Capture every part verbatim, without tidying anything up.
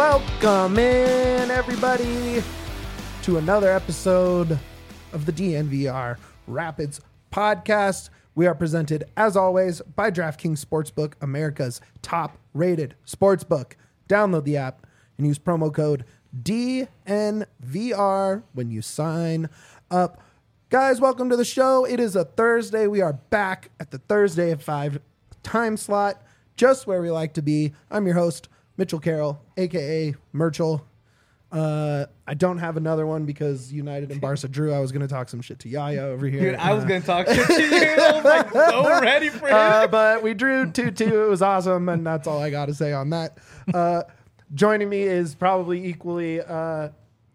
Welcome in, everybody, to another episode of the D N V R Rapids podcast. We are presented, as always, by DraftKings Sportsbook, America's top-rated sportsbook. Download the app and use promo code D N V R when you sign up. Guys, welcome to the show. It is a Thursday. We are back at the Thursday at five time slot, just where we like to be. I'm your host, Mitchell Carroll, a k a. Merchel. Uh, I don't have another one because United and Barca drew. I was going to talk some shit to Yaya over here. Dude, I was uh, going to talk shit to you. I was like so ready for it. Uh, but we drew two two. It was awesome, and that's all I got to say on that. Uh, joining me is probably equally uh,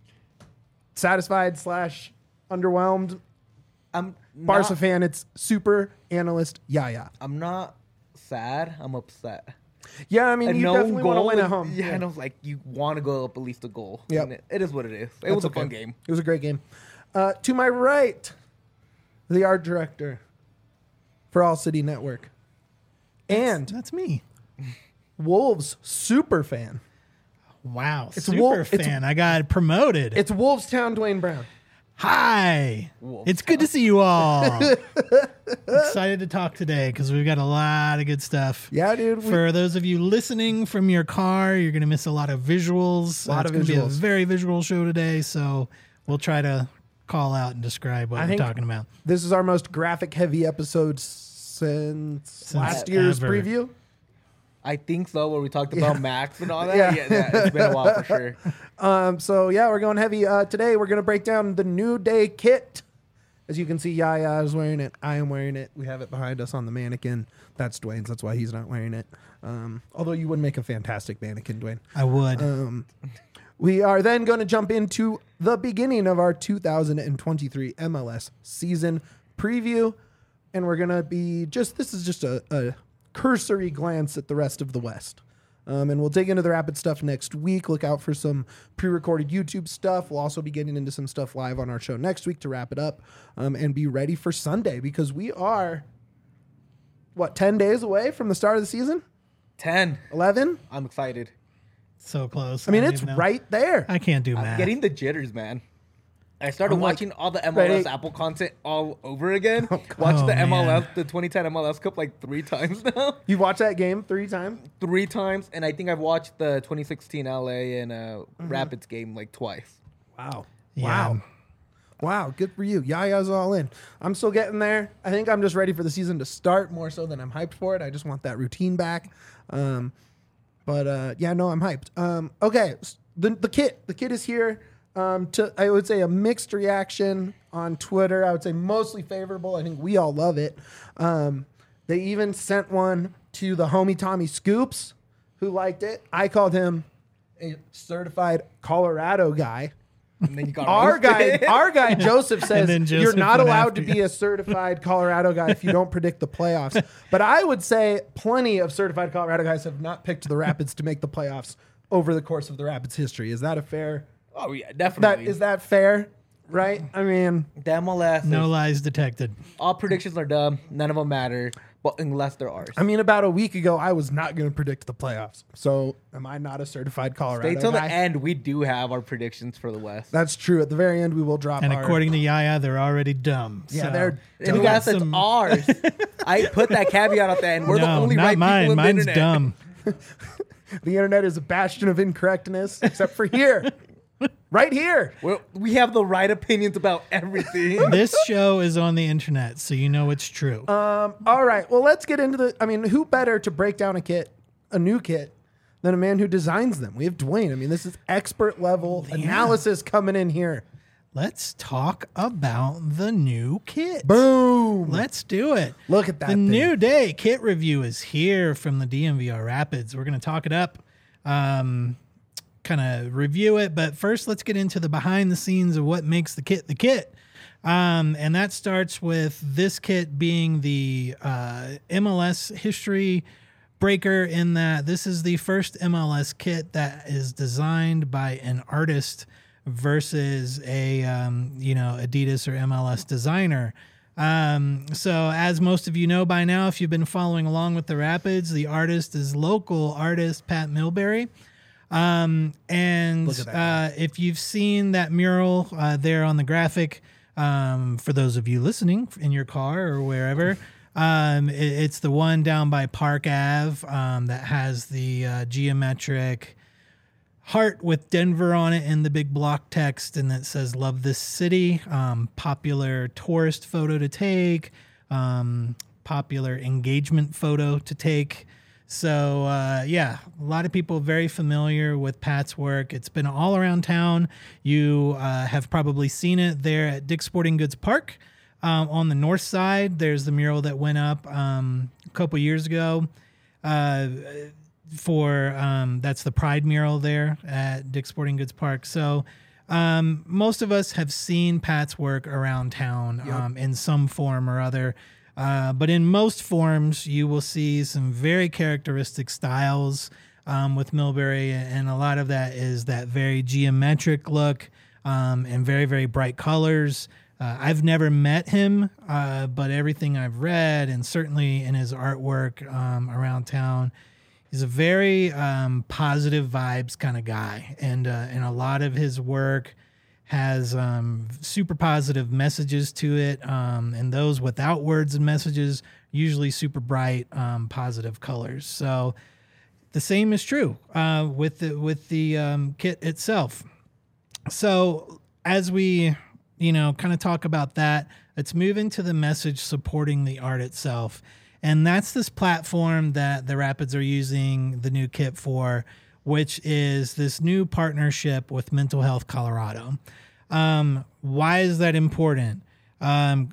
satisfied slash underwhelmed. I'm Barca not, fan. It's super analyst Yaya. I'm not sad. I'm upset. Yeah, I mean, A you no definitely want to goal win and- at home. Yeah, and I was like, you want to go up at least a goal. Yep. And It, it is what it is. It That's was a okay. fun game. It was a great game. Uh, to my right, the art director for All City Network, and That's me. Wolves super fan. Wow. It's Super Wolf- it's- fan. I got promoted. It's Wolvestown Dwayne Brown. Hi. Wolf It's good to see you all. Excited to talk today because we've got a lot of good stuff. Yeah, dude. We, For those of you listening from your car, you're going to miss a lot of visuals. Lot it's of going to be a visuals. very visual show today, so we'll try to call out and describe what I we're think- talking about. this is our most graphic heavy episode since, Since last year's ever. preview. I think so, where we talked about Max and all that. Yeah. Yeah, yeah, it's been a while for sure. Um, so yeah, we're going heavy. Uh, today we're going to break down the New Day kit. As you can see, Yaya is wearing it. I am wearing it. We have it behind us on the mannequin. That's Dwayne's. That's why he's not wearing it. Um, although you would make a fantastic mannequin, Dwayne. I would. Um, we are then going to jump into the beginning of our two thousand twenty-three M L S season preview. And we're going to be just, this is just a, a cursory glance at the rest of the West. Um, and we'll dig into the Rapid stuff next week. Look out for some pre-recorded YouTube stuff. We'll also be getting into some stuff live on our show next week to wrap it up, um, and be ready for Sunday because we are, what, ten days away from the start of the season? ten. eleven? I'm excited. so close. I mean, don't it's even know. right there. I can't do I'm math. getting the jitters, man. I started I'm like, watching all the M L S ready- Apple content all over again. Oh, Watched Oh, the M L S, man. the twenty ten M L S Cup like three times now. You've watched that game three times? three times, and I think I've watched the twenty sixteen L A and uh, Mm-hmm. Rapids game like twice. Wow. Yeah. Wow. Wow. Good for you. Yaya's all in. I'm still getting there. I think I'm just ready for the season to start more so than I'm hyped for it. I just want that routine back. Um, but uh, yeah, no, I'm hyped. Um, okay. s- The, the kit. The kit is here. Um, to I would say a mixed reaction on Twitter. I would say mostly favorable. I think we all love it. Um, they even sent one to the homie Tommy Scoops, who liked it. I called him a certified Colorado guy. And then you got Our guy, roasted. our guy Joseph says then you're Joseph not went allowed to after be a certified Colorado guy if you don't predict the playoffs. But I would say plenty of certified Colorado guys have not picked the Rapids to make the playoffs over the course of the Rapids history. Is that a fair? Oh yeah, That definitely. is that fair? Right? I mean, the M L S. No is- lies detected. all predictions are dumb. None of them matter, but unless they're ours. I mean, about a week ago, I was not going to predict the playoffs. So, am I not a certified Colorado Stay till guy? the end. We do have our predictions for the West. That's true. At the very end, we will drop. And our, according to Yaya, they're already dumb. Yeah, so they're And we yes, got it's some- ours. I put that caveat at the end. We're the No, only not right mine. people in Mine's the internet. dumb. the internet is a bastion of incorrectness, except for here, right here. We're, we have the right opinions about everything. This show is on the internet, so you know it's true. Um, all right. Well, let's get into the. I mean, who better to break down a kit, a new kit, than a man who designs them? We have Dwayne. I mean, this is expert level Yeah. analysis coming in here. Let's talk about the new kit. Boom. Let's do it. Look at that The thing. new day kit review is here from the D M V R Rapids. We're going to talk it up, um, kind of review it. But first, let's get into the behind the scenes of what makes the kit the kit. Um, and that starts with this kit being the uh, M L S history breaker, in that this is the first M L S kit that is designed by an artist versus a um, you know Adidas or M L S designer. Um, so as most of you know by now, if you've been following along with the Rapids, the artist is local artist Pat Milbury. Um, and Look at that uh, if you've seen that mural uh, there on the graphic, um, for those of you listening in your car or wherever, um, it, it's the one down by Park Ave um, that has the uh, geometric heart with Denver on it in the big block text, and that says "Love this city." Um, popular tourist photo to take, um, popular engagement photo to take. So uh, yeah, a lot of people very familiar with Pat's work. It's been all around town. You uh, have probably seen it there at Dick's Sporting Goods Park. Um, on the north side, there's the mural that went up um, a couple years ago. Uh, for um, that's the Pride mural there at Dick's Sporting Goods Park. So um, most of us have seen Pat's work around town Yep. um, in some form or other. Uh, but in most forms, you will see some very characteristic styles um, with Millbury, and a lot of that is that very geometric look um, and very, very bright colors. Uh, I've never met him, uh, but everything I've read, and certainly in his artwork um, around town, he's a very um, positive vibes kind of guy, and uh, and a lot of his work has um, super positive messages to it, um, and those without words and messages usually super bright, um, positive colors. So the same is true uh, with the with the um, kit itself. So as we, you know, kind of talk about that, let's move into the message supporting the art itself. And that's this platform that the Rapids are using the new kit for, which is this new partnership with Mental Health Colorado. Um, why is that important? Um,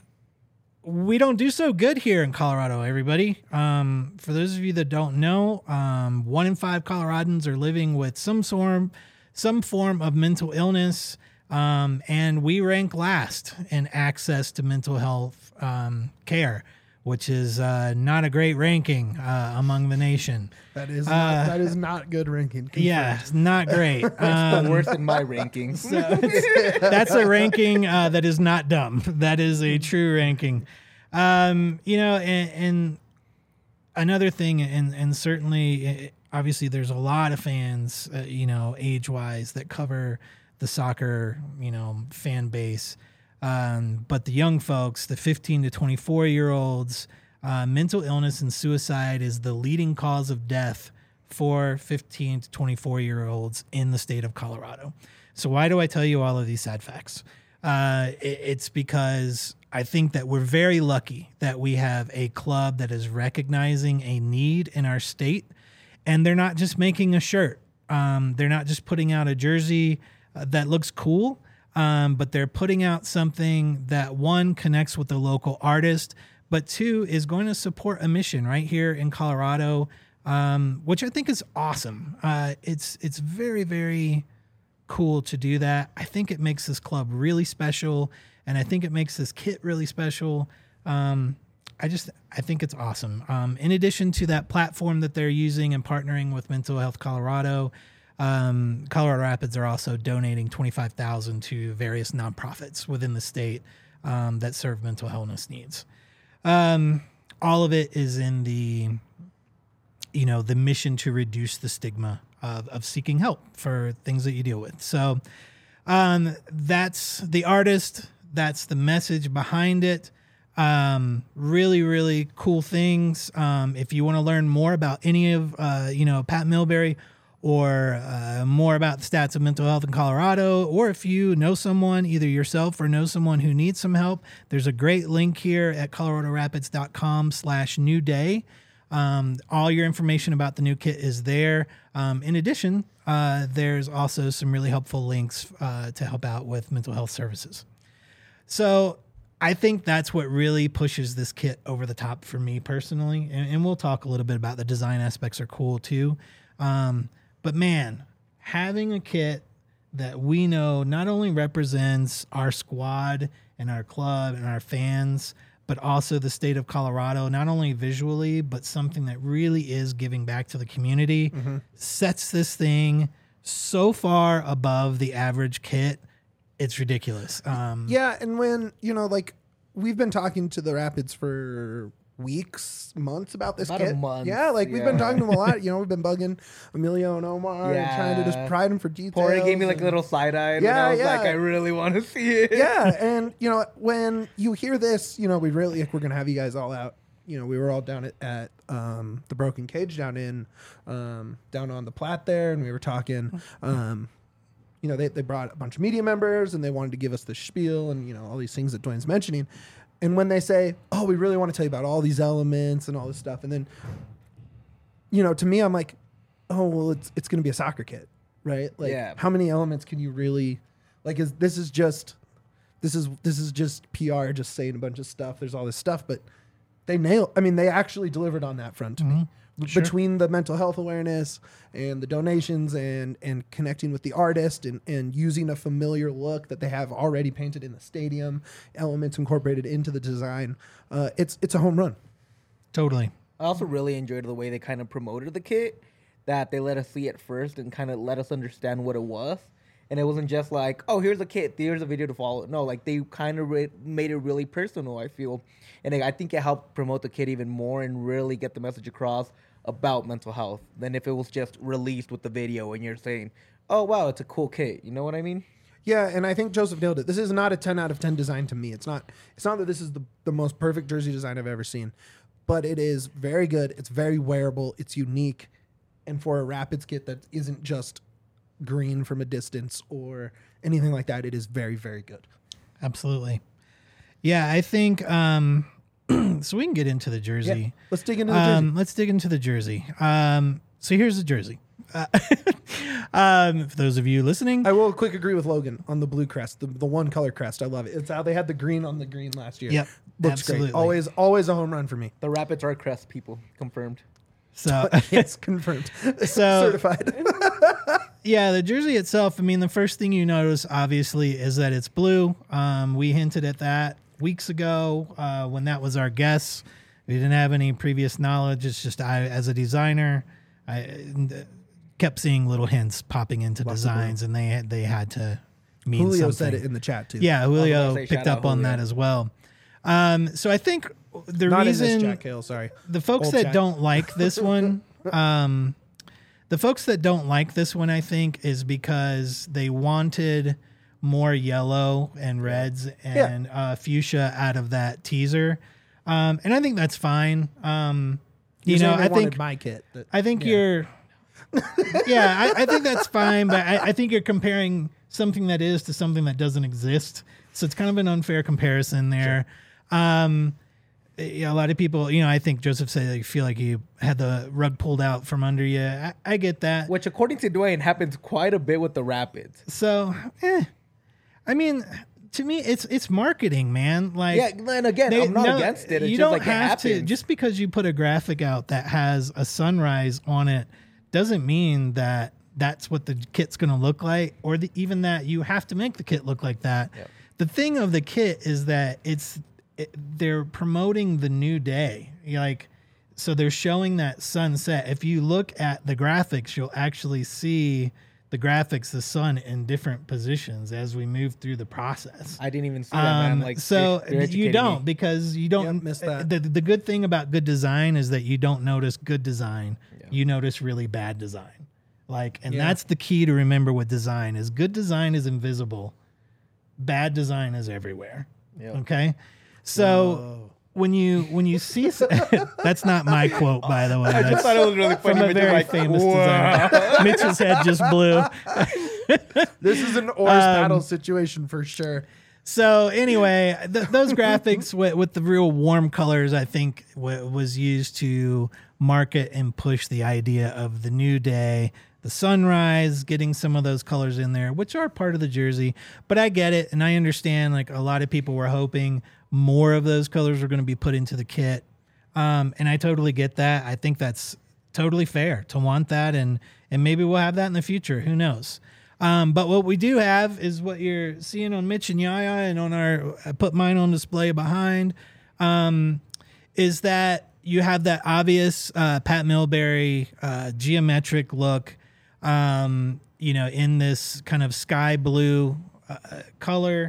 we don't do so good here in Colorado, everybody. Um, for those of you that don't know, um, one in five Coloradans are living with some form, some form of mental illness. Um, and we rank last in access to mental health um, care, which is uh, not a great ranking uh, among the nation. That is Uh, not, that is not good ranking. Confirmed. Yeah, it's not great. It's Um, the worst in my rankings. so it's- that's a ranking uh, that is not dumb. That is a true ranking. Um, you know, and, and another thing, and and certainly, eh, obviously, there's a lot of fans, uh, you know, age-wise that cover the soccer, you know, fan base. Um, but the young folks, the fifteen to twenty-four year olds, uh, mental illness and suicide is the leading cause of death for fifteen to twenty-four year olds in the state of Colorado. So why do I tell you all of these sad facts? Uh, it, it's because I think that we're very lucky that we have a club that is recognizing a need in our state, and they're not just making a shirt. Um, they're not just putting out a jersey uh, that looks cool. Um, but they're putting out something that, one, connects with the local artist, but two, is going to support a mission right here in Colorado, um, which I think is awesome. Uh, it's it's very, very cool to do that. I think it makes this club really special, and I think it makes this kit really special. Um, I just I think it's awesome. Um, in addition to that platform that they're using and partnering with Mental Health Colorado, Um, Colorado Rapids are also donating twenty-five thousand dollars to various nonprofits within the state um, that serve mental illness needs. Um, all of it is in the, you know, the mission to reduce the stigma of, of seeking help for things that you deal with. So um, that's the artist. That's the message behind it. Um, really, really cool things. Um, if you want to learn more about any of, uh, you know, Pat Millbury, or uh, more about the stats of mental health in Colorado, or if you know someone, either yourself or know someone who needs some help, there's a great link here at coloradorapids.com slash new day. Um, all your information about the new kit is there. Um, in addition, uh, there's also some really helpful links uh, to help out with mental health services. So I think that's what really pushes this kit over the top for me personally. And, and we'll talk a little bit about the design aspects are cool too. Um, But man, having a kit that we know not only represents our squad and our club and our fans, but also the state of Colorado, not only visually, but something that really is giving back to the community, mm-hmm. sets this thing so far above the average kit. It's ridiculous. Um, Yeah, and when, you know, like, we've been talking to the Rapids for weeks, months about this About a kit. month, Yeah, like we've been yeah. talking to them a lot. You know, we've been bugging Emilio and Omar and trying to just Yeah. pry them for details. Corey gave me like a and- little side eye, and Yeah, I was yeah. like, I really want to see it. yeah, and you know, when you hear this, you know, we really like, we're gonna have you guys all out. You know, we were all down at, at um, the Broken Cage down in um, down on the Platte there, and we were talking. Um, you know, they they brought a bunch of media members, and they wanted to give us the spiel and you know all these things that Dwayne's mentioning. And when they say, "Oh, we really want to tell you about all these elements and all this stuff," and then, you know, to me, I'm like, "Oh, well, it's it's gonna be a soccer kit, right? Like, Yeah. how many elements can you really, like, is this is just." This is this is just P R, just saying a bunch of stuff. There's all this stuff, but they nailed. I mean, they actually delivered on that front to me. Sure. Between the mental health awareness and the donations and and connecting with the artist and and using a familiar look that they have already painted in the stadium, elements incorporated into the design. Uh, it's it's a home run. Totally. I also really enjoyed the way they kind of promoted the kit, that they let us see it first and kind of let us understand what it was. And it wasn't just like, oh, here's a kit, here's a video to follow. No, like they kind of re- made it really personal, I feel. And I think it helped promote the kit even more and really get the message across about mental health than if it was just released with the video and you're saying, oh, wow, it's a cool kit. You know what I mean? Yeah, and I think Joseph nailed it. This is not a ten out of ten design to me. It's not it's not that this is the, the most perfect jersey design I've ever seen, but it is very good. It's very wearable. It's unique. And for a Rapids kit that isn't just green from a distance or anything like that, it is very, very good. Absolutely. Yeah, I think um so we can get into the jersey. Let's dig into the jersey. Um, let's dig into the jersey. Um, so here's the jersey. Uh, um, for those of you listening, I will quick agree with Logan on the blue crest, the, the one color crest. I love it. It's how they had the green on the green last year. Yep, Looks absolutely. great. Always, always a home run for me. The Rapids are crest people, confirmed. so Yes, confirmed. So- Certified. yeah, the jersey itself. I mean, the first thing you notice, obviously, is that it's blue. Um, we hinted at that weeks ago uh, when that was our guess. We didn't have any previous knowledge. It's just I, as a designer, I uh, kept seeing little hints popping into Love the designs, and they had, they had to mean Julio something. said it in the chat too. Yeah, I was Julio gonna say, picked shout up out on that Julio. as well. Um, so I think the Not reason in this Jack Hale, sorry. the folks Old that chat. don't like this one, um, the folks that don't like this one, I think, is because they wanted more yellow and reds and uh, fuchsia out of that teaser, um, and I think that's fine. Um, you You're know, saying they I wanted think my kit. That- I think yeah. you're. yeah, I, I think that's fine, but I, I think you're comparing something that is to something that doesn't exist. So it's kind of an unfair comparison there. Um, yeah, a lot of people, you know, I think Joseph said they feel like you had the rug pulled out from under you. I, I get that. Which, according to Dwayne, happens quite a bit with the Rapids. So, eh, I mean, to me, it's it's marketing, man. Like, Yeah, and again, They- I'm not no, against it. It's you just don't like it have to happens. just because you put a graphic out that has a sunrise on it doesn't mean that that's what the kit's going to look like, or the, even that you have to make the kit look like that. Yep. The thing of the kit is that it's it, they're promoting the new day, You're like so they're showing that sunset. If you look at the graphics, you'll actually see the graphics, the sun in different positions as we move through the process. I didn't even see that, man. Um, Like, so you're- you're you educating don't me. because you don't Yep, missed that. The, the good thing about good design is that you don't notice good design. Yeah. You notice really bad design. Like, and Yeah. that's the key to remember with design is good design is invisible. Bad design is everywhere. Yeah. Okay. So when you, when you see, s- that's not my quote, by the way. I just That's thought it was really funny. from a but you're very like, famous "Wow." designer. Mitch's head just blew. This is an oars Um, paddle situation for sure. So anyway, th- those graphics with, with the real warm colors, I think, w- was used to market and push the idea of the new day, the sunrise, getting some of those colors in there, which are part of the jersey. But I get it, and I understand. Like a lot of people were hoping more of those colors were going to be put into the kit, um, and I totally get that. I think that's totally fair to want that, and and maybe we'll have that in the future. Who knows? Um, but what we do have is what you're seeing on Mitch and Yaya and on our, I put mine on display behind, um, is that you have that obvious uh, Pat Milbury uh, geometric look, um, you know, in this kind of sky blue uh, color.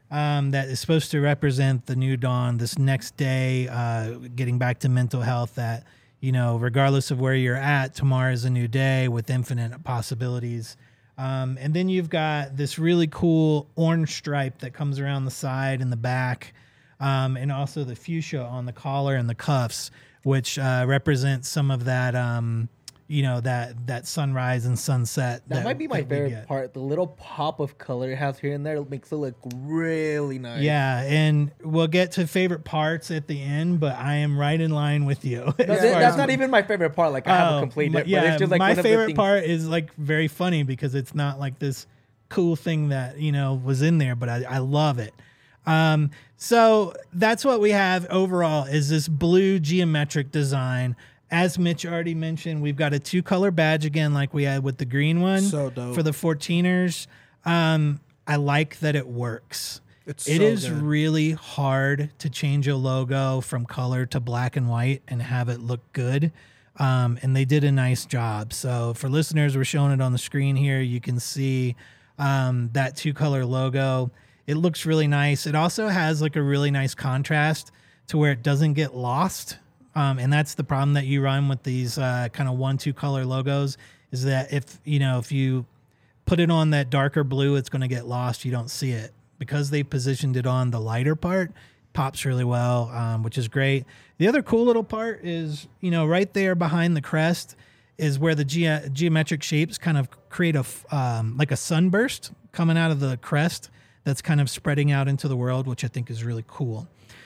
um, that is supposed to represent the new dawn, this next day, uh, getting back to mental health that, you know, regardless of where you're at, tomorrow is a new day with infinite possibilities. Um, and then you've got this really cool orange stripe that comes around the side and the back, um, and also the fuchsia on the collar and the cuffs, which uh, represents some of that, um, you know, that that sunrise and sunset. That, that might be my that we favorite get. part. The little pop of color it has here and there makes it look really nice. Yeah, and we'll get to favorite parts at the end, but I am right in line with you. No, as th- far that's as- not even my favorite part. Like I have Oh, a complete. my- But yeah, it's just like my one of the favorite things- part is like very funny because it's not like this cool thing that, you know, was in there, but I, I love it. Um, so that's what we have overall is this blue geometric design. As Mitch already mentioned, we've got a two color badge again, like we had with the green one So dope. for the fourteeners. Um, I like that it works. It's It so is good. really hard to change a logo from color to black and white and have it look good. Um, and they did a nice job. So for listeners, we're showing it on the screen here. You can see um, that two color logo. It looks really nice. It also has like a really nice contrast to where it doesn't get lost. Um, and that's the problem that you run with these uh, kind of one, two color logos is that if, you know, if you put it on that darker blue, it's going to get lost. You don't see it because they positioned it on the lighter part. Pops really well, um, which is great. The other cool little part is, you know, right there behind the crest is where the ge- geometric shapes kind of create a, f- um, like a sunburst coming out of the crest that's kind of spreading out into the world, which I think is really cool.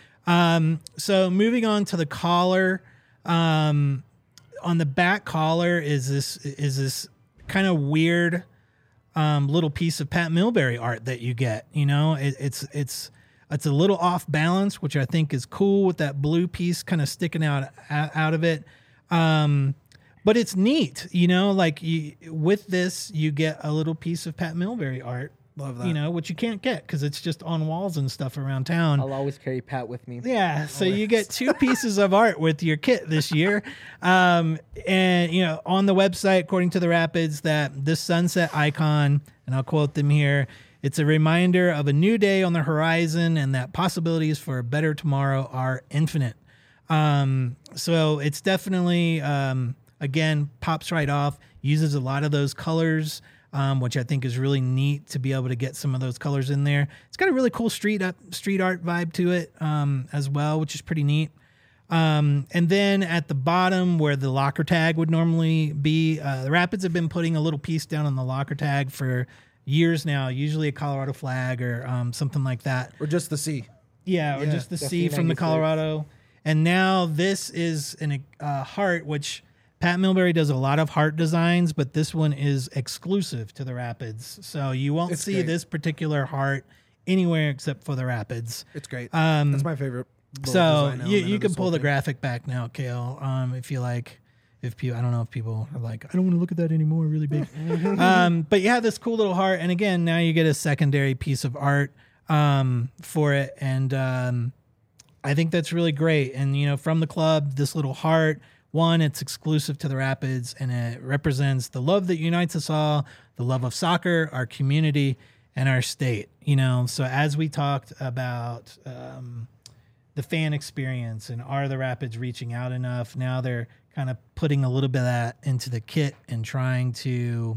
Um, so moving on to the collar, um, on the back collar is this, is this kind of weird, um, little piece of Pat Milbury art that you get, you know, it, it's, it's, it's a little off balance, which I think is cool with that blue piece kind of sticking out, out of it. Um, but it's neat, you know, like you, with this, you get a little piece of Pat Milbury art. Love that. You know, which you can't get because it's just on walls and stuff around town. I'll always carry Pat with me. Yeah, so you get two pieces of art with your kit this year. Um, and, you know, on the website, according to the Rapids, that this sunset icon, and I'll quote them here, it's a reminder of a new day on the horizon and that possibilities for a better tomorrow are infinite. Um, so it's definitely, um, again, pops right off, uses a lot of those colors. Um, which I think is really neat to be able to get some of those colors in there. It's got a really cool street up, street art vibe to it um, as well, which is pretty neat. Um, and then at the bottom where the locker tag would normally be, uh, the Rapids have been putting a little piece down on the locker tag for years now, usually a Colorado flag or um, something like that. Or just the C. Yeah, or Yeah. just the The C from the C ninety-six. Colorado. And now this is an uh, heart, which Pat Milbury does a lot of heart designs, but this one is exclusive to the Rapids. So you won't It's see great. this particular heart anywhere except for the Rapids. It's great. Um, That's my favorite. little So design you, element you of can this pull whole the thing. graphic back now, Kale, um, if you like. If people, I don't know if people are like, I don't want to look at that anymore, really big. um, but you have this cool little heart, and again, now you get a secondary piece of art um, for it, and um, I think that's really great. And you know, from the club, this little heart. One, it's exclusive to the Rapids, and it represents the love that unites us all, the love of soccer, our community, and our state. You know, so as we talked about um, the fan experience and are the Rapids reaching out enough, now they're kind of putting a little bit of that into the kit and trying to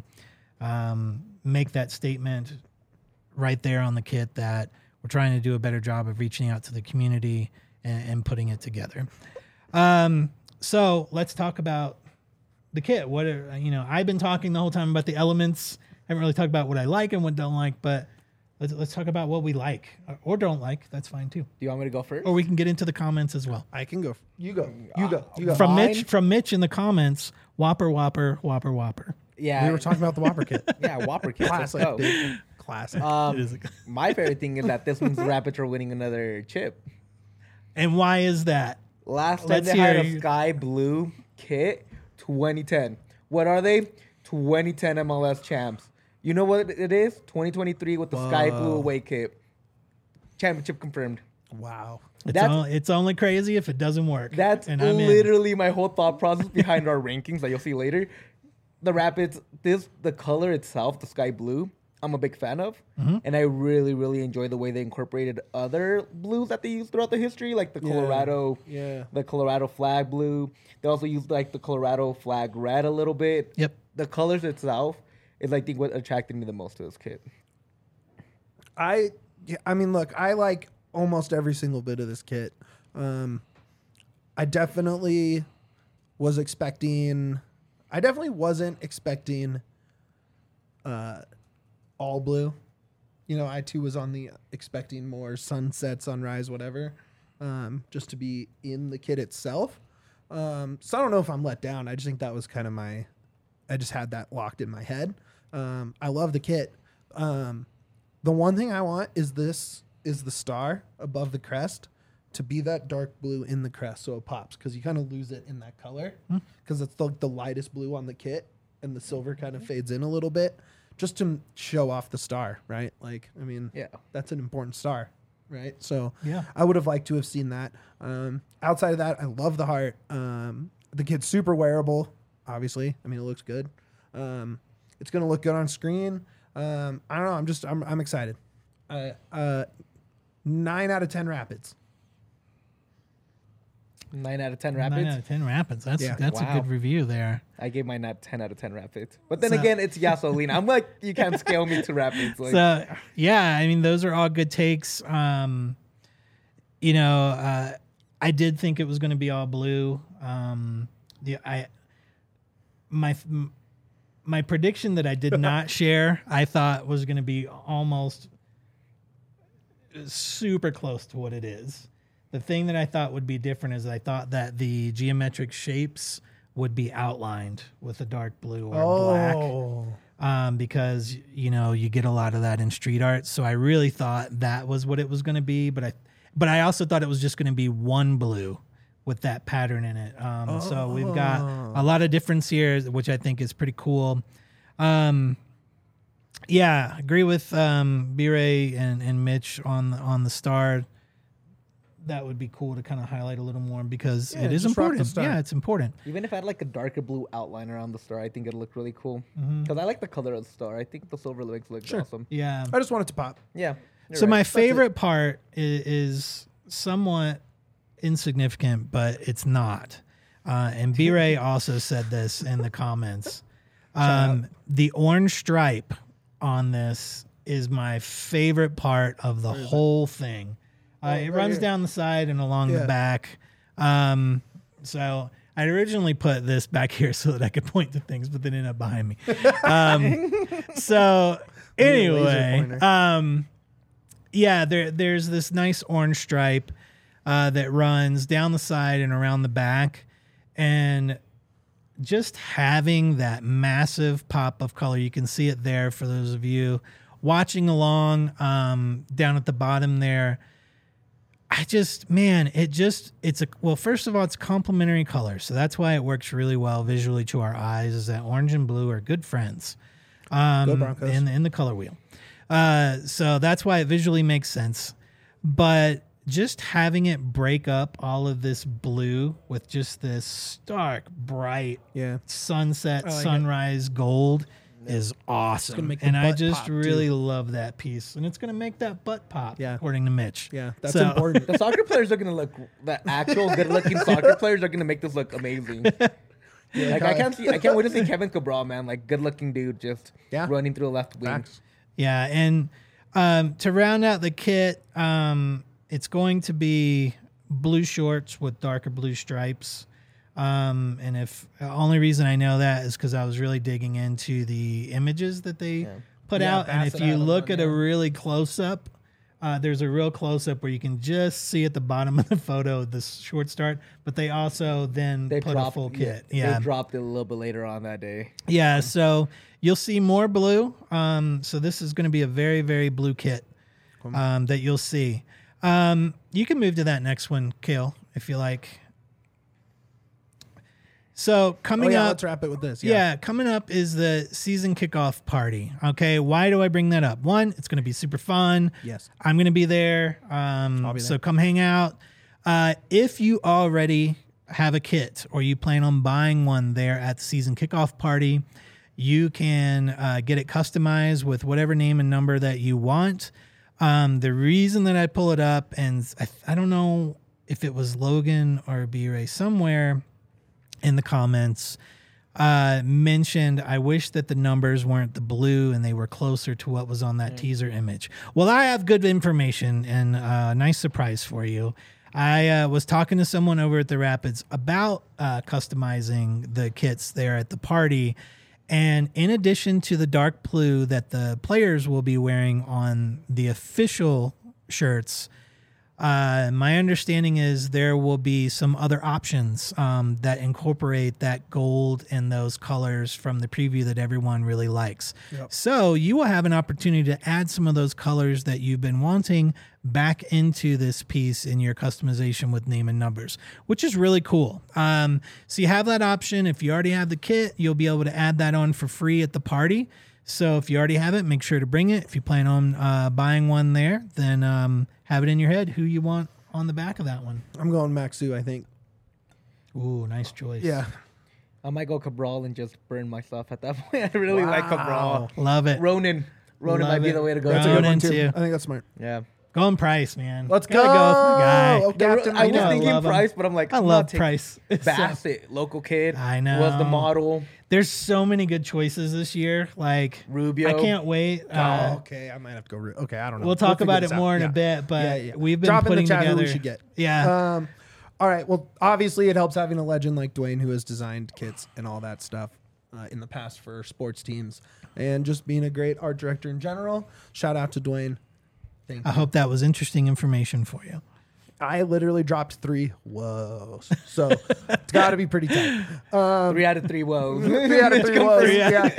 um, make that statement right there on the kit that we're trying to do a better job of reaching out to the community and, and putting it together. Um, So let's talk about the kit. What are, you know, I've been talking the whole time about the elements. I haven't really talked about what I like and what don't like, but let's let's talk about what we like or, or don't like. That's fine too. Do you want me to go first? Or we can get into the comments as well. I can go. You go. You go. You go. From Mine? Mitch, from Mitch in the comments, Whopper, Whopper, Whopper, Whopper. yeah, we were talking about the Whopper kit. yeah, Whopper kids. Let's Classic, go. dude. Classic. Um, It is a- my favorite thing is that this means the Rapids are winning another chip. And why is that? Last time Let's they had hear- a sky blue kit, twenty ten. What are they? twenty ten M L S champs. You know what it is? twenty twenty-three with the sky blue Whoa. away kit. Championship confirmed. Wow. It's, That's- only, it's only crazy if it doesn't work. That's and I'm in. literally my whole thought process behind our rankings that you'll see later. The Rapids, this the color itself, the sky blue, I'm a big fan of, Mhm. and I really, really enjoy the way they incorporated other blues that they used throughout the history, like the Yeah. Colorado, Yeah. the Colorado flag blue. They also used like the Colorado flag red a little bit. Yep. The colors itself is, I think, what attracted me the most to this kit. I yeah, I mean, look, I like almost every single bit of this kit. Um, I definitely was expecting. I definitely wasn't expecting. Uh, all blue. You know, I too was on the expecting more sunset, sunrise, whatever, um, just to be in the kit itself. Um, so I don't know if I'm let down. I just think that was kind of my. I just had that locked in my head. Um, I love the kit. Um, the one thing I want is this is the star above the crest to be that dark blue in the crest, so it pops, because you kind of lose it in that color because it's the, the lightest blue on the kit, and the silver kind of fades in a little bit, just to show off the star, right? Like, I mean, Yeah. that's an important star, right? So Yeah. I would have liked to have seen that. Um, outside of that, I love the heart. Um, the kit's super wearable, obviously. I mean, it looks good. Um, it's gonna look good on screen. Um, I don't know. I'm just I'm I'm excited. Uh, uh, nine out of ten rapids. Nine out of ten Nine rapids. out of ten rapids. That's Yeah. that's Wow. a good review there. I gave mine not ten out of ten rapids. But then So- again, it's Yasolina. I'm like, you can't scale me to rapids. Like, So yeah, I mean those are all good takes. Um, you know, uh, I did think it was going to be all blue. Um, the I my m- my prediction that I did not share, I thought was going to be almost super close to what it is. The thing that I thought would be different is I thought that the geometric shapes would be outlined with a dark blue or black. Oh, Um, because you know you get a lot of that in street art. So I really thought that was what it was going to be, but I, but I also thought it was just going to be one blue with that pattern in it. Um, so we've got a lot of difference here, which I think is pretty cool. Um, yeah, agree with um, B-Ray and, and Mitch on the, on the star. That would be cool to kind of highlight a little more because Yeah, it is just rock the important. star. Yeah, it's important. even if I had like a darker blue outline around the star, I think it'd look really cool. Mm-hmm. Because I like the color of the star. I think the silver looks looks Sure. awesome. Yeah. I just want it to pop. Yeah. you're So right. my it. favorite part is, is somewhat insignificant, but it's not. Uh, and B-Ray also said this in the comments. Um, the orange stripe on this is my favorite part of the whole thing. Uh, it right runs here. down the side and along Yeah. the back. Um, so I originally put this back here so that I could point to things, but they ended up behind me. Um, so need a laser anyway, pointer. um, yeah, there there's this nice orange stripe uh, that runs down the side and around the back, and just having that massive pop of color, you can see it there for those of you watching along um, down at the bottom there. I just, man, it just, it's a, well, first of all, it's complementary color. So that's why it works really well visually to our eyes, is that orange and blue are good friends um, Go Broncos. in, in the color wheel. Uh, so that's why it visually makes sense. But just having it break up all of this blue with just this stark, bright Yeah. sunset, I like it. sunrise gold is awesome. gonna make the and I butt just pop, really too. love that piece. And it's going to make that butt pop, Yeah. according to Mitch. Yeah. That's So- important. The soccer players are gonna look. The actual good-looking soccer players are gonna make this look amazing. Like I can't see. I can't wait to see Kevin Cabral, man. Like good-looking dude, just Yeah. running through the left wing. Facts. Yeah, and um, to round out the kit, um, it's going to be blue shorts with darker blue stripes. Um, and if the only reason I know that is because I was really digging into the images that they put Yeah, out, and if Bassett you had them look on, at a yeah. really close up, uh, there's a real close up where you can just see at the bottom of the photo the short start, but they also then They put dropped a full yeah, kit. Yeah, They dropped it a little bit later on that day. yeah, so you'll see more blue. Um, so this is going to be a very, very blue kit um, that you'll see. Um, you can move to that next one, Kale, if you like. So Oh, coming yeah. up, Let's wrap it with this. yeah. Yeah. coming up is the season kickoff party. Okay, why do I bring that up? One, it's going to be super fun. Yes. I'm going to be there. Um, I'll be So there. come hang out. Uh, if you already have a kit or you plan on buying one there at the season kickoff party, you can uh, get it customized with whatever name and number that you want. Um, the reason that I pull it up, and I, I don't know if it was Logan or B-Ray somewhere in the comments, uh, mentioned, I wish that the numbers weren't the blue and they were closer to what was on that mm. teaser image. Well, I have good information and a uh, nice surprise for you. I uh, was talking to someone over at the Rapids about uh, customizing the kits there at the party. And in addition to the dark blue that the players will be wearing on the official shirts, uh, my understanding is there will be some other options um, that incorporate that gold and those colors from the preview that everyone really likes. Yep. So you will have an opportunity to add some of those colors that you've been wanting back into this piece in your customization with name and numbers, which is really cool. Um, so you have that option. If you already have the kit, you'll be able to add that on for free at the party. So if you already have it, make sure to bring it. If you plan on uh, buying one there, then um, have it in your head who you want on the back of that one. I'm going Maxu, I think. Ooh, nice choice. Yeah. I might go Cabral and just burn myself at that point. I really wow. like Cabral. Love it. Ronan. Ronan Love might be it. the way to go. That's a good one too. too. I think that's smart. Yeah. Going Price, man. Let's Gotta go. go with my guy. Oh, Captain, I was know, I thinking love him. Price, but I'm like, I I'm love not taking Price. Bassett, local kid. I know. Was the model. There's so many good choices this year. Like Rubio. I can't wait. Uh, oh, okay. I might have to go. Ru- okay, I don't know. We'll talk figure about this it out. more in Yeah. a bit, but Yeah, yeah. we've been Drop in putting the chat together. who we should get. Yeah. Um, all right. Well, obviously, it helps having a legend like Dwayne who has designed kits and all that stuff uh, in the past for sports teams, and just being a great art director in general. Shout out to Dwayne. Thank I you. hope that was interesting information for you. I literally dropped three. Whoa. So it's got to be pretty tight. Um, Three out of three woes. three out of three woes. Yeah.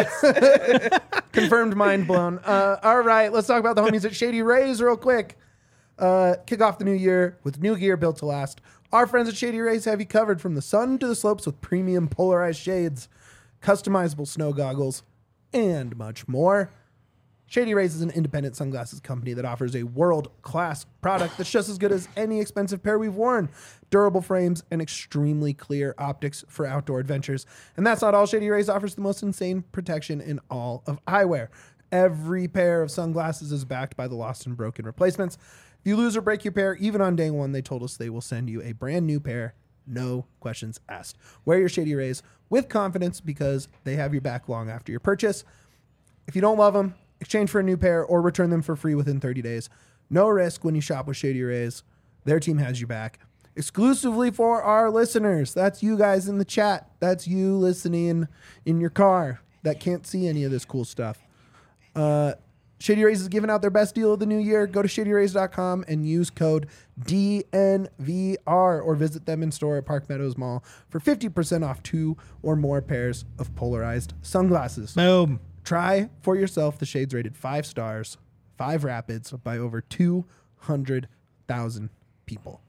Uh, confirmed mind blown. Uh, all right. Let's talk about the homies at Shady Rays real quick. Uh, kick off the new year with new gear built to last. Our friends at Shady Rays have you covered from the sun to the slopes with premium polarized shades, customizable snow goggles, and much more. Shady Rays is an independent sunglasses company that offers a world-class product that's just as good as any expensive pair we've worn. Durable frames and extremely clear optics for outdoor adventures. And that's not all. Shady Rays offers the most insane protection in all of eyewear. Every pair of sunglasses is backed by the lost and broken replacements. If you lose or break your pair, even on day one, they told us they will send you a brand new pair. No questions asked. Wear your Shady Rays with confidence because they have your back long after your purchase. If you don't love them, exchange for a new pair or return them for free within thirty days. No risk when you shop with Shady Rays. Their team has you back. Exclusively for our listeners. That's you guys in the chat. That's you listening in your car that can't see any of this cool stuff. Uh, Shady Rays is giving out their best deal of the new year. Go to shady rays dot com and use code D N V R or visit them in store at Park Meadows Mall for fifty percent off two or more pairs of polarized sunglasses. Boom. Try for yourself the shades rated five stars, five rapids by over two hundred thousand people.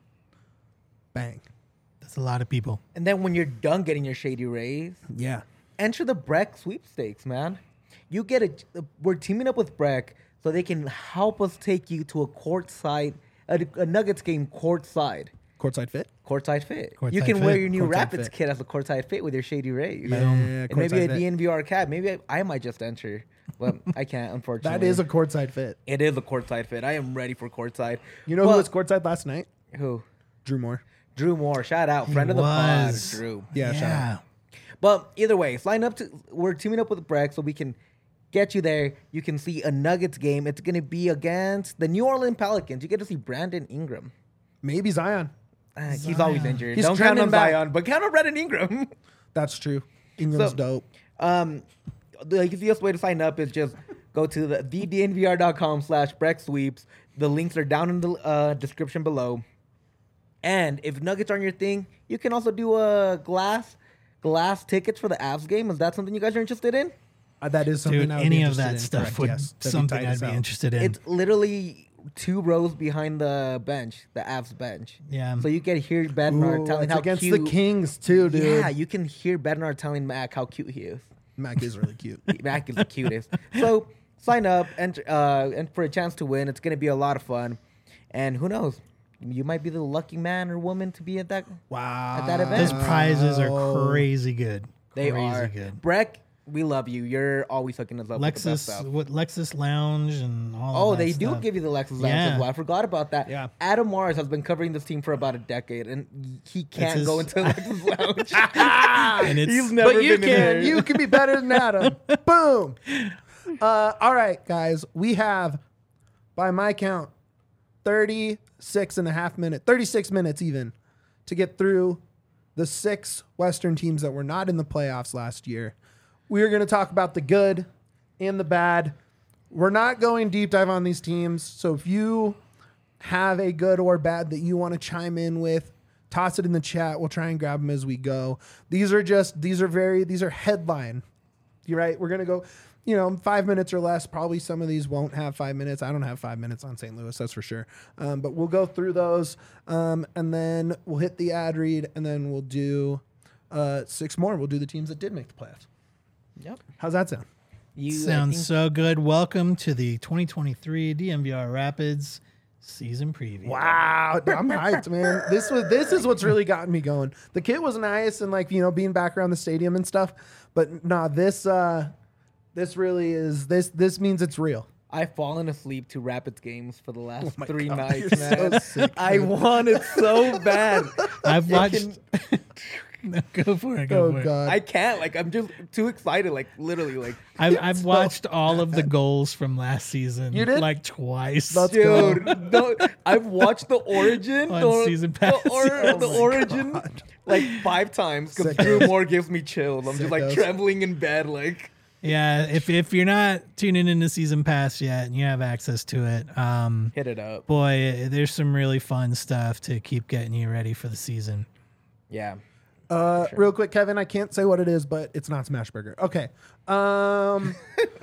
Bang. That's a lot of people. And then when you're done getting your Shady Rays, Yeah. enter the Breck sweepstakes, man. You get it. We're teaming up with Breck so they can help us take you to a courtside, a, a Nuggets game courtside. Courtside fit? Courtside fit. Courtside you can fit. wear your new Courtside Rapids fit. kit as a courtside fit with your Shady Rays. Yeah, And maybe courtside a fit. D N V R cap. Maybe I, I might just enter, but I can't, unfortunately. That is a courtside fit. It is a courtside fit. I am ready for courtside. You know But- who was courtside last night? Who? Drew Moore. Drew Moore. Shout out. He Friend of the pod, was. Drew. Yeah, shout out. But either way, sign up to. We're teaming up with Breck so we can get you there. You can see a Nuggets game. It's going to be against the New Orleans Pelicans. You get to see Brandon Ingram. Maybe Zion. Uh, he's Zion. always injured. He's Don't count trending on back. Zion, but count on Brandon Ingram. That's true. Ingram's So- dope. um, the easiest way to sign up is just go to the, the d n v r dot com slash Breck Sweeps. The links are down in the uh, description below. And if Nuggets aren't your thing, you can also do a glass glass tickets for the Avs game. Is that something you guys are interested in? Uh, that is something Dude, I would be any of interested that in, stuff correct, would yes. That'd something tight I'd as be hell. interested in. It's literally two rows behind the bench, the Avs bench. Yeah. So you can hear Bednar Ooh, telling it's how against cute. the Kings too, dude. Yeah, you can hear Bednar telling Mac how cute he is. Mac is really cute. Mac is the cutest. So sign up and uh, and for a chance to win. It's gonna be a lot of fun, and who knows, you might be the lucky man or woman to be at that. Wow. At that event. Those prizes are crazy good. They crazy are good. Breck. We love you. You're always hooking us up with the best Lexus, stuff. what Lexus Lounge and all. Oh, of that they stuff. do give you the Lexus Lounge Yeah. as well. I forgot about that. Yeah. Adam Mars has been covering this team for about a decade, and he can't his- go into Lexus Lounge. And it's He's never But you been in there. can. You can be better than Adam. Boom. Uh, all right, guys. We have, by my count, thirty-six and a half minutes, thirty-six minutes even, to get through the six Western teams that were not in the playoffs last year. We are going to talk about the good and the bad. We're not going deep dive on these teams. So if you have a good or bad that you want to chime in with, toss it in the chat. We'll try and grab them as we go. These are just, these are very, these are headline. You're right. We're going to go, you know, five minutes or less. Probably some of these won't have five minutes. I don't have five minutes on Saint Louis, that's for sure. Um, but we'll go through those um, and then we'll hit the ad read and then we'll do uh, six more. We'll do the teams that did make the playoffs. Yep. How's that sound? You, I Sounds think- so good. Welcome to the twenty twenty-three D M V R Rapids season preview. Wow, I'm hyped, man. This was this is what's really gotten me going. The kit was nice and like, you know, being back around the stadium and stuff, but nah, this uh this really is this this means it's real. I've fallen asleep to Rapids games for the last Oh my three God, nights, you're so man. sick, I dude. want it so bad. I've It watched. can- No, go for it. Go Oh for it. god. I can't. Like, I'm just too excited. Like, literally, like, I've, I've watched all of the goals from last season. You did? Like twice. Let's go. dude, no, I've watched the Origin, On the, season pass. the, or, Oh the my Origin, God. like five times because Sickos. Drew Moore gives me chills. I'm just like Sickos. trembling in bed, like. Yeah, if if you're not tuning into season pass yet and you have access to it, um, Hit it up. boy, there's some really fun stuff to keep getting you ready for the season. Yeah. Uh, real quick, Kevin, I can't say what it is, but it's not Smashburger. Okay. Um,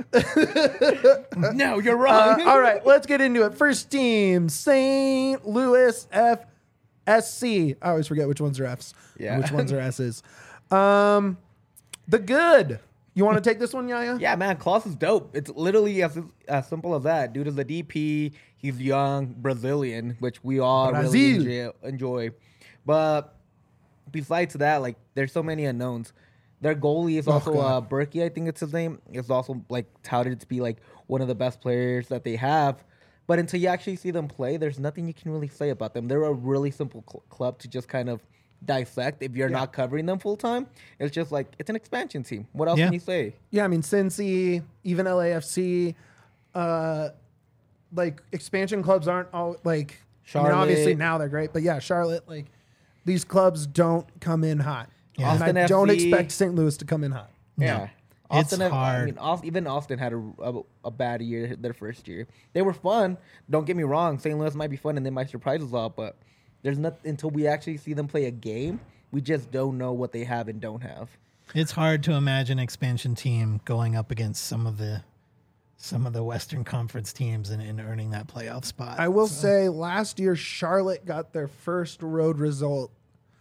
No, you're uh, wrong. all right, let's get into it. First team, Saint Louis F S C. I always forget which ones are Fs, Yeah. and which ones are S's. Um, the good. You want to take this one, Yaya? Yeah, man, Klaus is dope. It's literally as as simple as that. Dude is a D P. He's young, Brazilian, which we all Brazil. really enjoy, enjoy. But besides that, like, there's so many unknowns. Their goalie is Oh, also uh, God. Berkey, I think it's his name. Is also like touted to be like one of the best players that they have. But until you actually see them play, there's nothing you can really say about them. They're a really simple cl- club to just kind of dissect if you're Yeah. not covering them full time. It's just like it's an expansion team. What else Yeah. can you say? Yeah, I mean, Cincy, even L A F C, uh, like expansion clubs aren't all like. I mean, obviously Charlotte. now they're great, but yeah, Charlotte, like these clubs don't come in hot, Yeah. and I Austin don't F C. expect Saint Louis to come in hot. Yeah. It's Austin, have- I hard. mean, Aust- even Austin had a, a, a bad year their first year. They were fun. Don't get me wrong. Saint Louis might be fun and they might surprise us all, but there's not until we actually see them play a game, we just don't know what they have and don't have. It's hard to imagine expansion team going up against some of the some of the Western Conference teams and, and earning that playoff spot. I will So, say, last year Charlotte got their first road result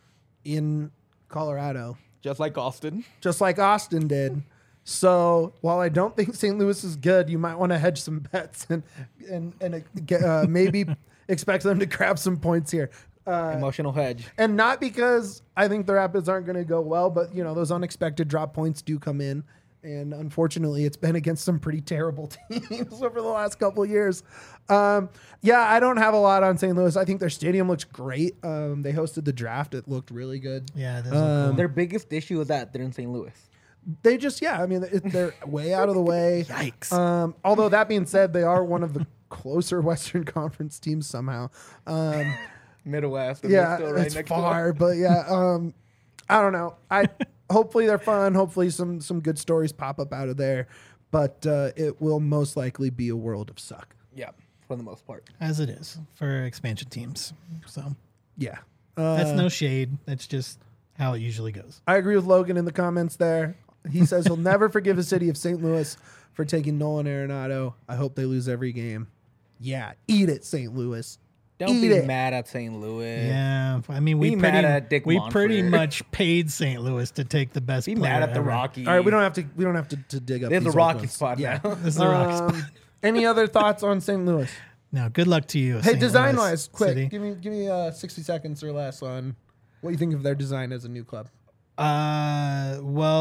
in Colorado, Just like Austin. just like Austin did. So while I don't think Saint Louis is good, you might want to hedge some bets and and and uh, maybe expect them to grab some points here. Uh, Emotional hedge. and not because I think the Rapids aren't going to go well, but you know those unexpected drop points do come in, and unfortunately, it's been against some pretty terrible teams over the last couple of years. Um, yeah, I don't have a lot on Saint Louis. I think their stadium looks great. Um, they hosted the draft; it looked really good. yeah, those Um, are cool. Their biggest issue is that they're in Saint Louis. They just, yeah, I mean, it, they're way out of the way. Yikes. Um, although that being said, they are one of the closer Western Conference teams somehow. Um, Midwest. and they're yeah, still right it's next far, door. but yeah, um, I don't know. I hopefully they're fun. Hopefully some some good stories pop up out of there, but uh, it will most likely be a world of suck. Yeah, for the most part. As it is for expansion teams. So Yeah, uh, that's no shade. That's just how it usually goes. I agree with Logan in the comments there. He says he'll never forgive the city of Saint Louis for taking Nolan Arenado. I hope they lose every game. Yeah, eat it, Saint Louis. Don't Eat be it. mad at Saint Louis. Yeah, I mean we Be pretty mad at Dick we Monfort. pretty much paid Saint Louis to take the best Be player mad at the ever. Rockies. All right, we don't have to. We don't have to, to dig up. There's these a old Rocky ones. spot Yeah. now. This is the rock spot. Um, any other thoughts on Saint Louis? No, good luck to you. Hey, Saint design Louis wise, quick, City. give me give me uh, sixty seconds or less on what you think of their design as a new club. Uh, well,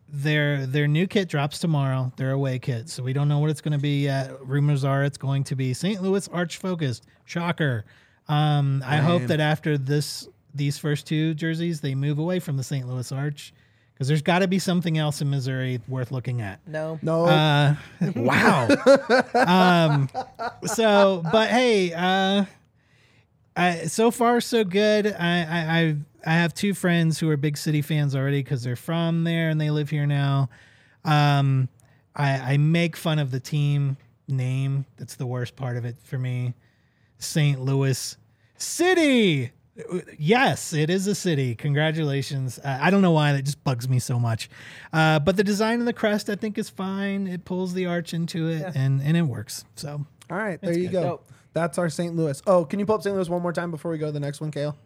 their their new kit drops tomorrow. Their away kit, so we don't know what it's going to be yet. Rumors are it's going to be Saint Louis Arch focused. Shocker. Um, I hope that after this these first two jerseys, they move away from the Saint Louis Arch, because there's got to be something else in Missouri worth looking at. No. No. Uh, wow. um, so, but hey, uh, I, so far so good. I, I, I, I have two friends who are big city fans already because they're from there and they live here now. Um, I, I make fun of the team name. That's the worst part of it for me. Saint Louis City. Yes, it is a city. Congratulations. Uh, I don't know why that just bugs me so much. Uh, but the design of the crest, I think, is fine. It pulls the arch into it, yeah. and, and it works. So, all right, there you good. go. Nope. That's our Saint Louis. Oh, can you pull up Saint Louis one more time before we go to the next one, Kale?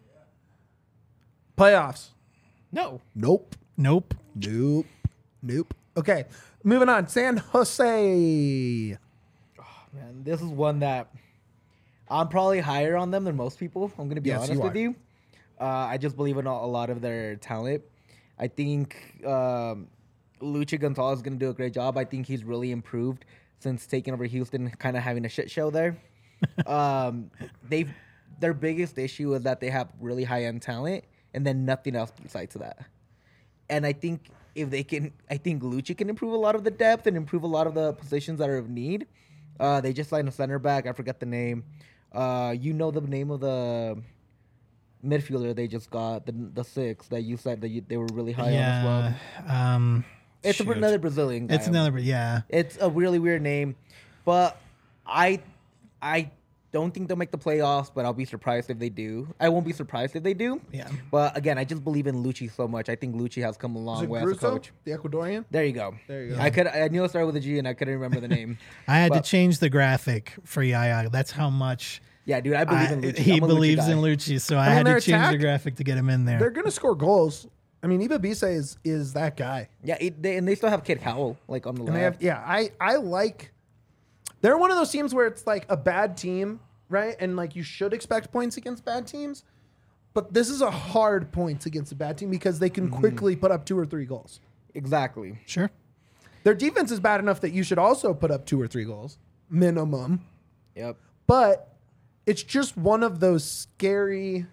Playoffs. No. Nope. Nope. Nope. Nope. Okay, moving on. San Jose. Oh, man, this is one that I'm probably higher on them than most people. I'm going to be Yes, honest you with are. you. Uh, I just believe in a, a lot of their talent. I think um, Luchi Gonzalez is going to do a great job. I think he's really improved since taking over Houston, kind of having a shit show there. um, they've their biggest issue is that they have really high end talent and then nothing else besides that. And I think if they can, I think Luchi can improve a lot of the depth and improve a lot of the positions that are of need. Uh, they just signed a center back. I forget the name. Uh, you know the name of the midfielder they just got, the the six that you said that you, they were really high yeah, on as well. Um, It's shoot. another Brazilian guy. It's another, yeah. It's a really weird name, but I I don't think they'll make the playoffs, but I'll be surprised if they do. I won't be surprised if they do. Yeah. But again, I just believe in Luchi so much. I think Luchi has come a Is long it way as a Grusso, coach. the Ecuadorian? There you go. There you go. I could I knew it started with a G and I couldn't remember the name. I had But- to change the graphic for Yaya. That's how much Yeah, dude, I believe I- in Luchi. he I'm a Luchi believes guy. in Lucci, so I, I mean, had their to change attack- the graphic to get him in They're there. going to score goals. I mean, Iba Bise is, is that guy. Yeah, it, they, and they still have Kid Cowell like on the And they left. have, yeah, I, I like. They're one of those teams where it's like a bad team, right? And like you should expect points against bad teams, but this is a hard points against a bad team because they can quickly put up two or three goals. Exactly. Sure. Their defense is bad enough that you should also put up two or three goals minimum, Yep. but it's just one of those scary,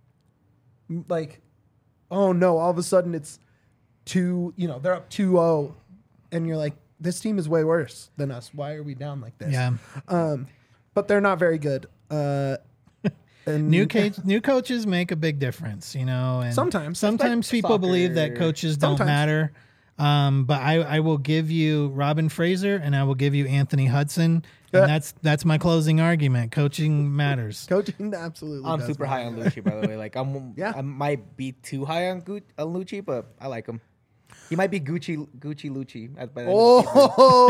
like, oh no, all of a sudden it's two, you know, they're up two oh, and you're like, this team is way worse than us. Why are we down like this? Yeah. Um, but they're not very good. Uh, and New coach, new coaches make a big difference, you know. And Sometimes. sometimes It's like people believe that soccer. coaches don't Sometimes. matter. Um, but I, I will give you Robin Fraser and I will give you Anthony Hudson, Yeah. and that's that's my closing argument. Coaching matters. coaching absolutely. I'm does super high on matter. Lucci, by the way. Like I'm, Yeah. I might be too high on, Gu- on Lucci, but I like him. He might be Gucci, Gucci Lucci. at- by the end of the season.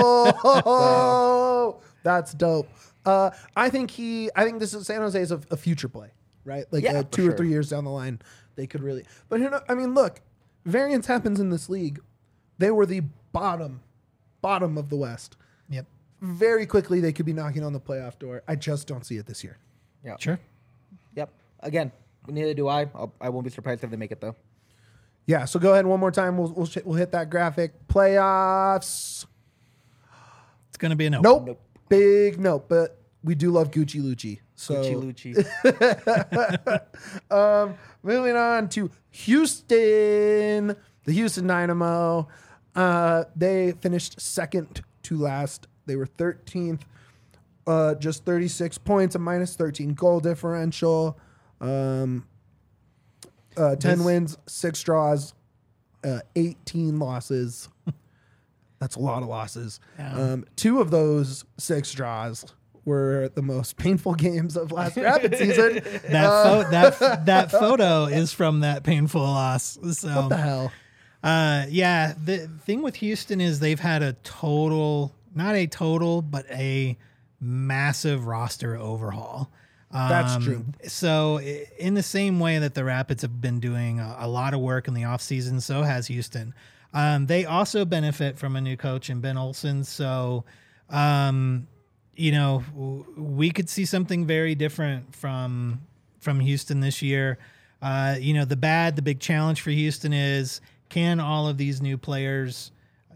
Oh, that's dope. Uh, I think he. I think this is San Jose is a, a future play, right? Like Yeah, uh, for two or sure. three years down the line, they could really. But you know, I mean, look, variance happens in this league. They were the bottom, bottom of the West. Yep. Very quickly, they could be knocking on the playoff door. I just don't see it this year. Yeah. Sure. Yep. Again, neither do I. I'll, I won't be surprised if they make it though. Yeah. So go ahead one more time. We'll we'll, sh- we'll hit that graphic. Playoffs. It's gonna be a no. Nope. Nope. Big nope. But we do love Gucci Lucci. So Gucci Lucci. um, moving on to Houston, the Houston Dynamo. Uh, they finished second to last. They were thirteenth, uh, just thirty-six points, a minus thirteen goal differential, um, uh, ten This- wins, six draws, uh, eighteen losses. That's a lot of losses. Yeah. Um, two of those six draws were the most painful games of last Rapid season. That Uh, pho- that that photo is from that painful loss. So what the hell? Uh, yeah, the thing with Houston is they've had a total, not a total, but a massive roster overhaul. Um, That's true. So i- in the same way that the Rapids have been doing a, a lot of work in the offseason, so has Houston. Um, they also benefit from a new coach in Ben Olsen. So, um, you know, w- we could see something very different from from Houston this year. Uh, you know, the bad, the big challenge for Houston is, can all of these new players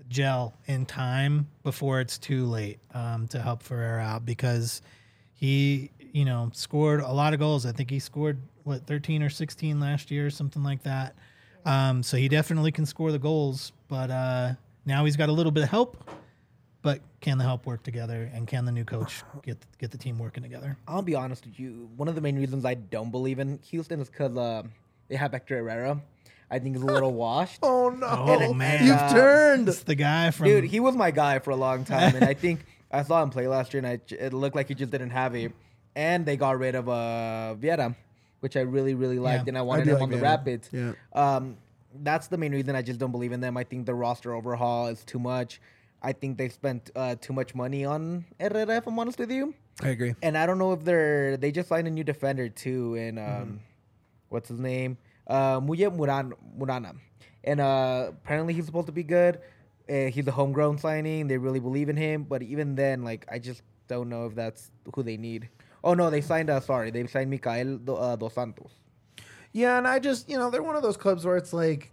gel in time before it's too late um, to help Ferreira out because he, you know, scored a lot of goals. I think he scored, what, thirteen or sixteen last year, something like that. Um, so he definitely can score the goals, but uh, now he's got a little bit of help. But can the help work together, and can the new coach get get the team working together? I'll be honest with you. One of the main reasons I don't believe in Houston is because uh, they have Hector Herrera. I think he's a little washed. Oh no! Oh, And- man. You've uh, turned. It's the guy from Dude, he was my guy for a long time, and I think I saw him play last year, and I, it looked like he just didn't have it. And they got rid of uh, Vieira, which I really, really liked, Yeah. and I I wanted do him like on the Vieira. Rapids. Yeah. Um, that's the main reason I just don't believe in them. I think the roster overhaul is too much. I think they spent uh, too much money on Herrera, if I'm honest with you. I agree. And I don't know if they're they just signed a new defender too, and um, Mm-hmm. what's his name, uh, Muye Muran Murana, and uh, apparently he's supposed to be good. Uh, he's a homegrown signing. They really believe in him, but even then, like I just don't know if that's who they need. Oh no, they signed. Uh, sorry, they signed Mikael Do, uh, Dos Santos. Yeah, and I just, you know, they're one of those clubs where it's like,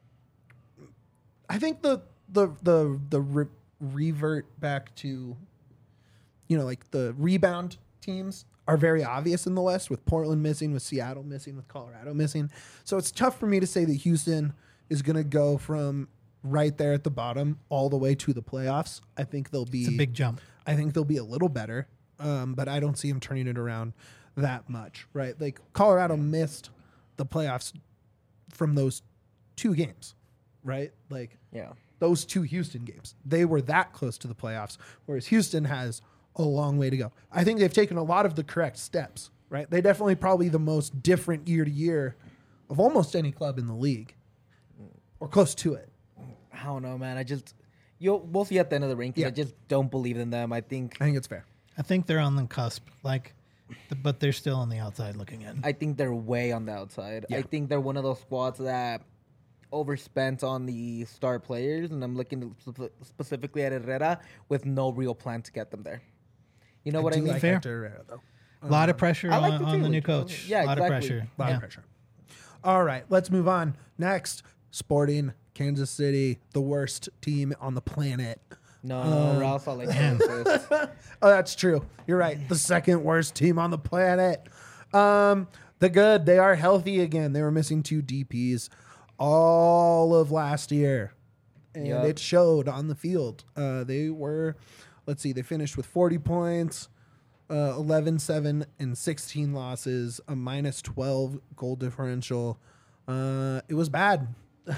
I think the the the the re- revert back to, you know, like the rebound teams are very obvious in the West, with Portland missing, with Seattle missing, with Colorado missing. So it's tough for me to say that Houston is going to go from right there at the bottom all the way to the playoffs. I think they'll be it's a big jump. I think they'll be a little better, um, but I don't see them turning it around that much, right? Like Colorado missed the playoffs from those two games, right? Like Yeah. those two Houston games. They were that close to the playoffs, whereas Houston has a long way to go. I think they've taken a lot of the correct steps, right? They definitely probably the most different year to year of almost any club in the league, or close to it. I don't know, man. I just you'll we'll see at the end of the rankings. Yeah. I just don't believe in them. I think I think it's fair. I think they're on the cusp, like, th- but they're still on the outside looking in. I think they're way on the outside. Yeah. I think they're one of those squads that overspent on the star players, and I'm looking spe- specifically at Herrera with no real plan to get them there. You know what I do mean? like Fair. Hector Herrera, though. A lot of pressure I like on, the on team, the new which- coach. yeah, a lot exactly. of pressure. A lot yeah. of pressure. All right, let's move on. Next, Sporting Kansas City, the worst team on the planet. No, Um, no, Ross, I like Kansas. Oh, that's true. You're right. The second worst team on the planet. Um, the good, they are healthy again. They were missing two D Ps all of last year, and Yup. it showed on the field. Uh, they were, let's see, they finished with forty points, uh, eleven, seven, and sixteen losses, a minus twelve goal differential. Uh, it was bad.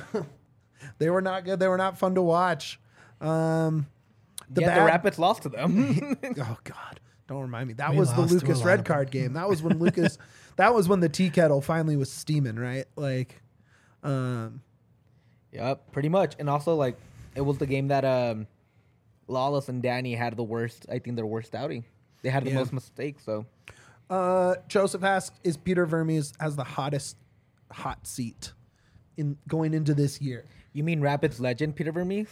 They were not good. They were not fun to watch. Um, the yeah, bad, the Rapids lost to them. Oh God! Don't remind me. That We was the lost to a Lucas lot red of card game. That was when Lucas. That was when the tea kettle finally was steaming, right? Like, um, Yep, pretty much. And also, like, it was the game that um, Lawless and Danny had the worst, I think, their worst outing. They had the Yeah. most mistakes, so. uh, Joseph asks, "Is Peter Vermes has the hottest hot seat in going into this year?" You mean Rapids legend Peter Vermees?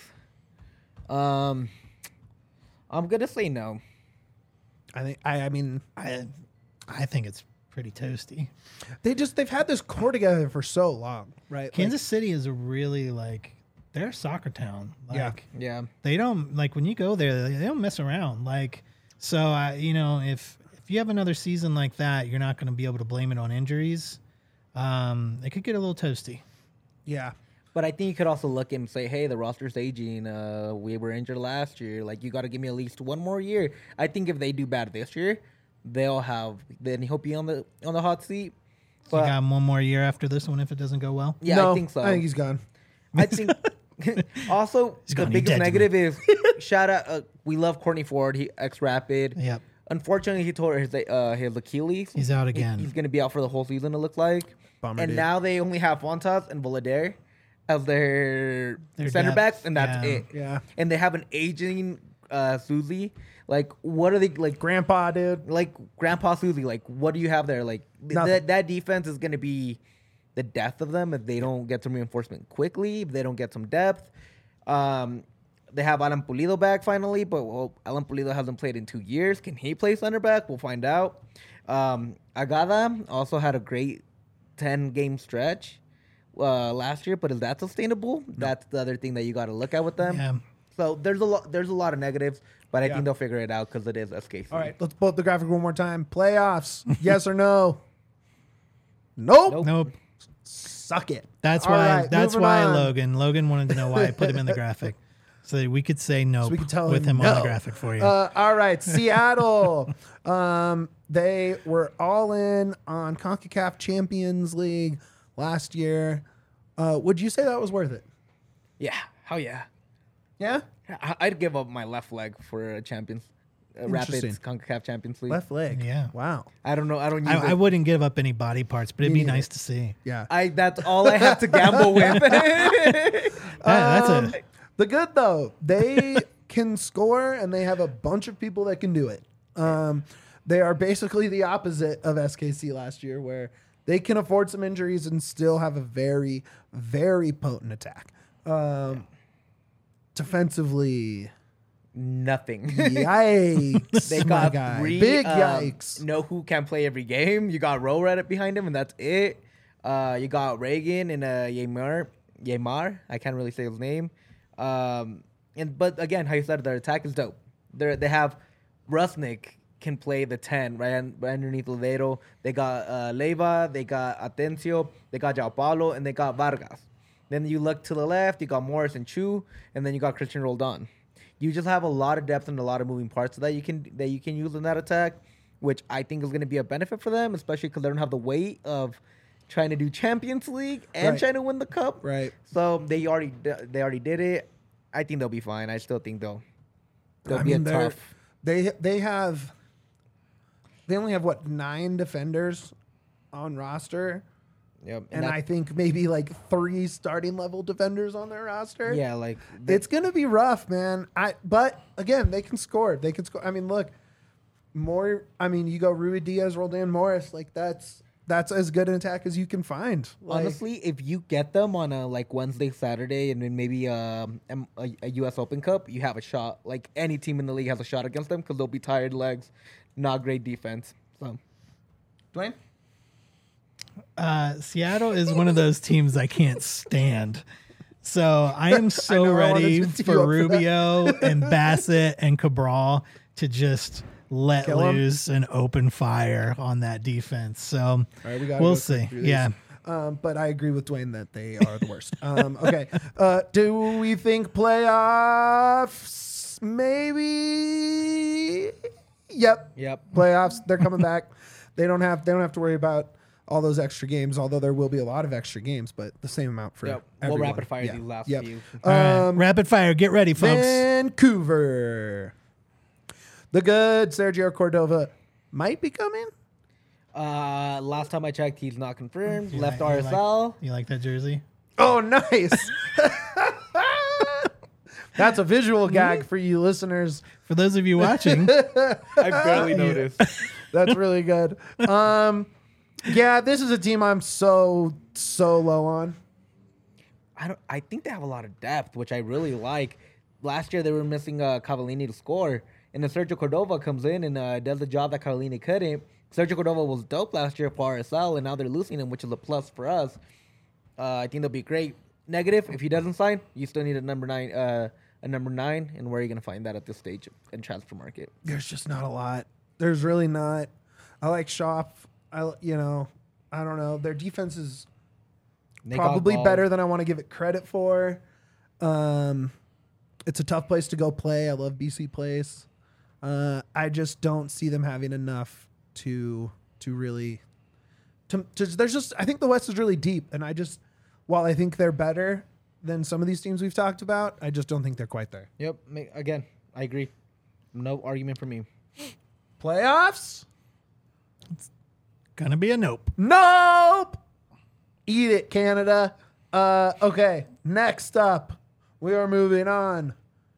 Um, I'm going to say no. I think. I. I mean, I, I think it's pretty toasty. they just they've had this core together for so long, right? Kansas City is a really like they're a soccer town. Like, Yeah. Yeah. they don't like when you go there. They, they don't mess around. Like so, I you know if if you have another season like that, you're not going to be able to blame it on injuries. Um, it could get a little toasty. yeah. But I think you could also look and say, hey, the roster's aging. Uh, we were injured last year. Like, you got to give me at least one more year. I think if they do bad this year, they'll have, then he'll be on the on the hot seat. So you But got him one more year after this one if it doesn't go well. yeah, No, I think so. I think he's gone. I think also He's the gone, you're biggest dead to negative is shout out. Uh, we love Courtney Ford. He ex Rapid. Yep. Unfortunately, he tore his uh, his Achilles. He's out He- again. he's going to be out for the whole season. It looks like. Bummer, and dude. now they only have Fontas and Volader as their, Their center depth, backs, and that's yeah. it. Yeah. And they have an aging uh, Susie. Like, what are they like? Grandpa, dude. Like Grandpa Susie. Like, what do you have there? Like th- Nothing. that that defense is going to be the death of them if they don't get some reinforcement quickly. If they don't get some depth. Um, they have Alan Pulido back finally, but well, Alan Pulido hasn't played in two years. Can he play center back? We'll find out. Um, Agada also had a great ten game stretch uh, last year, but is that sustainable? No. That's the other thing that you got to look at with them. Yeah. So there's a lot. There's a lot of negatives, but I Yeah. think they'll figure it out because it is S K C. All right, let's pull up the graphic one more time. Playoffs, yes or no? Nope. Nope. Nope. Suck it. That's All why. right, that's moving why on. Logan. Logan wanted to know why I put him in the graphic, so that we could say no So we could tell with him him on no. the graphic for you. Uh, all right, Seattle. um, they were all in on CONCACAF Champions League last year. Uh, would you say that was worth it? Yeah. Hell yeah. Yeah. I- I'd give up my left leg for a Champions uh, Rapids Interesting. CONCACAF Champions League. Left leg. Yeah. Wow. I don't know. I don't use I, it. I wouldn't give up any body parts, but it'd Me be neither. nice to see. Yeah. I that's all I have to gamble with. That- that's Um, a The good though, they can score and they have a bunch of people that can do it. Um, they are basically the opposite of S K C last year, where they can afford some injuries and still have a very, very potent attack. Um, defensively, Nothing. yikes! They my got guy. three. Big um, yikes. Know who can play every game. You got Ro Reddit behind him, and that's it. Uh, you got Reagan and uh, Yamar. Yamar. I can't really say his name. Um, and but again, how you said, their attack is dope. They they have Rusnik can play the ten right, un- right underneath Lodeiro. They got uh, Leiva. They got Atencio. They got Jao Paulo, and they got Vargas. Then you look to the left. You got Morris and Chu, and then you got Christian Roldan. You just have a lot of depth and a lot of moving parts that you can that you can use in that attack, which I think is going to be a benefit for them, especially because they don't have the weight of trying to do Champions League and Right. trying to win the cup. Right. So they already they already did it. I think they'll be fine. I still think they'll they'll I be mean, a they're- tough. They they have. They only have what nine defenders on roster. Yep. And that- I think maybe like three starting level defenders on their roster. yeah, like It's gonna be rough, man. I but again, they can score. They can score. I mean, look, more. I mean, you go Rui Diaz, Roldan Morris. Like that's that's as good an attack as you can find. Like, honestly, if you get them on a like Wednesday, Saturday, and then maybe um, um, a, a U S Open Cup, you have a shot. Like any team in the league has a shot against them because they'll be tired legs, not great defense. So, Dwayne. Uh, Seattle is one of those teams I can't stand. So I am so know, I wanted ready to tee you for up for that. Rubio and Bassett and Cabral to just let Kill 'em? loose and open fire on that defense. So All right, we gotta we'll go quick see. through these. Yeah. Um, but I agree with Dwayne that they are the worst. um, okay. Uh, do we think playoffs? Maybe. Yep. Yep. Playoffs. They're coming back. They don't have. They don't have to worry about all those extra games. Although there will be a lot of extra games, but the same amount for Yep. everyone. We'll rapid fire Yeah. these last Yep. few. All right. Um, Rapid fire. Get ready, folks. Vancouver. The good Sergio Cordova might be coming. Uh, last time I checked, he's not confirmed. You Left like- you R S L. Like, you like that jersey? Oh, nice. That's a visual gag for you listeners. For those of you watching, I barely noticed. That's really good. Um, yeah, this is a team I'm so so low on. I don't. I think they have a lot of depth, which I really like. Last year they were missing uh, Cavallini to score, and then Sergio Cordova comes in and uh, does the job that Cavallini couldn't. Sergio Cordova was dope last year for R S L, and now they're losing him, which is a plus for us. Uh, I think they'll be great. Negative, if he doesn't sign, you still need a number nine. Uh, a number nine, and where are you going to find that at this stage in transfer market? There's just not a lot. There's really not. I like Shop. I you know I don't know. Their defense is They got probably Gall. better than I want to give it credit for. Um, it's a tough place to go play. I love B C Place. Uh, I just don't see them having enough to to really. To, to there's just I think the West is really deep, and I just while I think they're better than some of these teams we've talked about, I just don't think they're quite there. Yep. ma- Again, I agree. No argument for me. Playoffs? gonna be a nope. Nope. Eat it, Canada. Uh, okay, next up, we are moving on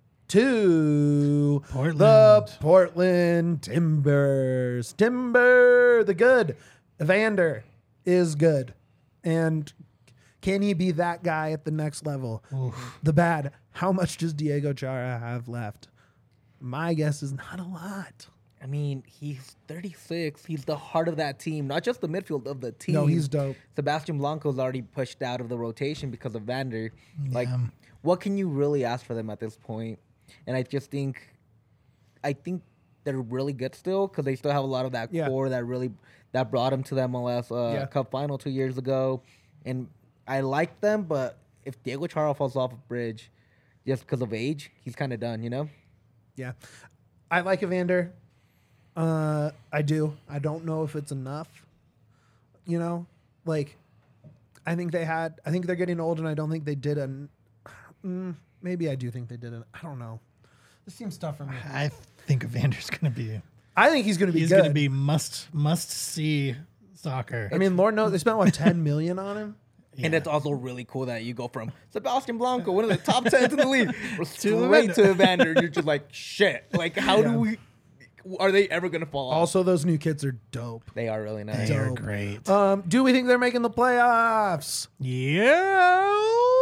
to Portland. the Portland Timbers. Timber, the good. Evander is good. And can he be that guy at the next level? The bad. How much does Diego Chara have left? My guess is not a lot. I mean, he's thirty-six. He's the heart of that team, not just the midfield of the team. No, he's dope. Sebastian Blanco's already pushed out of the rotation because of Vander. Like, Yeah. what can you really ask for them at this point? And I just think, I think they're really good still because they still have a lot of that Yeah. core that really that brought them to the M L S uh, Yeah. Cup final two years ago. And I like them, but if Diego Chara falls off a bridge just because of age, he's kind of done, you know? Yeah. I like Evander. Uh, I do. I don't know if it's enough. You know, like, I think they had, I think they're getting old, and I don't think they did an, mm, maybe I do think they did an, I don't know. This seems tough for me. I think Evander's going to be. I think he's going to be He's good. going to be must must see soccer. I mean, Lord knows they spent, what, ten million on him? And Yeah. it's also really cool that you go from Sebastian Blanco, one of the top tens in the league, straight Evander. to Evander. You're just like, shit. Like, how Yeah. do we, are they ever going to fall off? Also, those new kids are dope. They are really nice. They are dope. great. Um, do we think they're making the playoffs? yeah.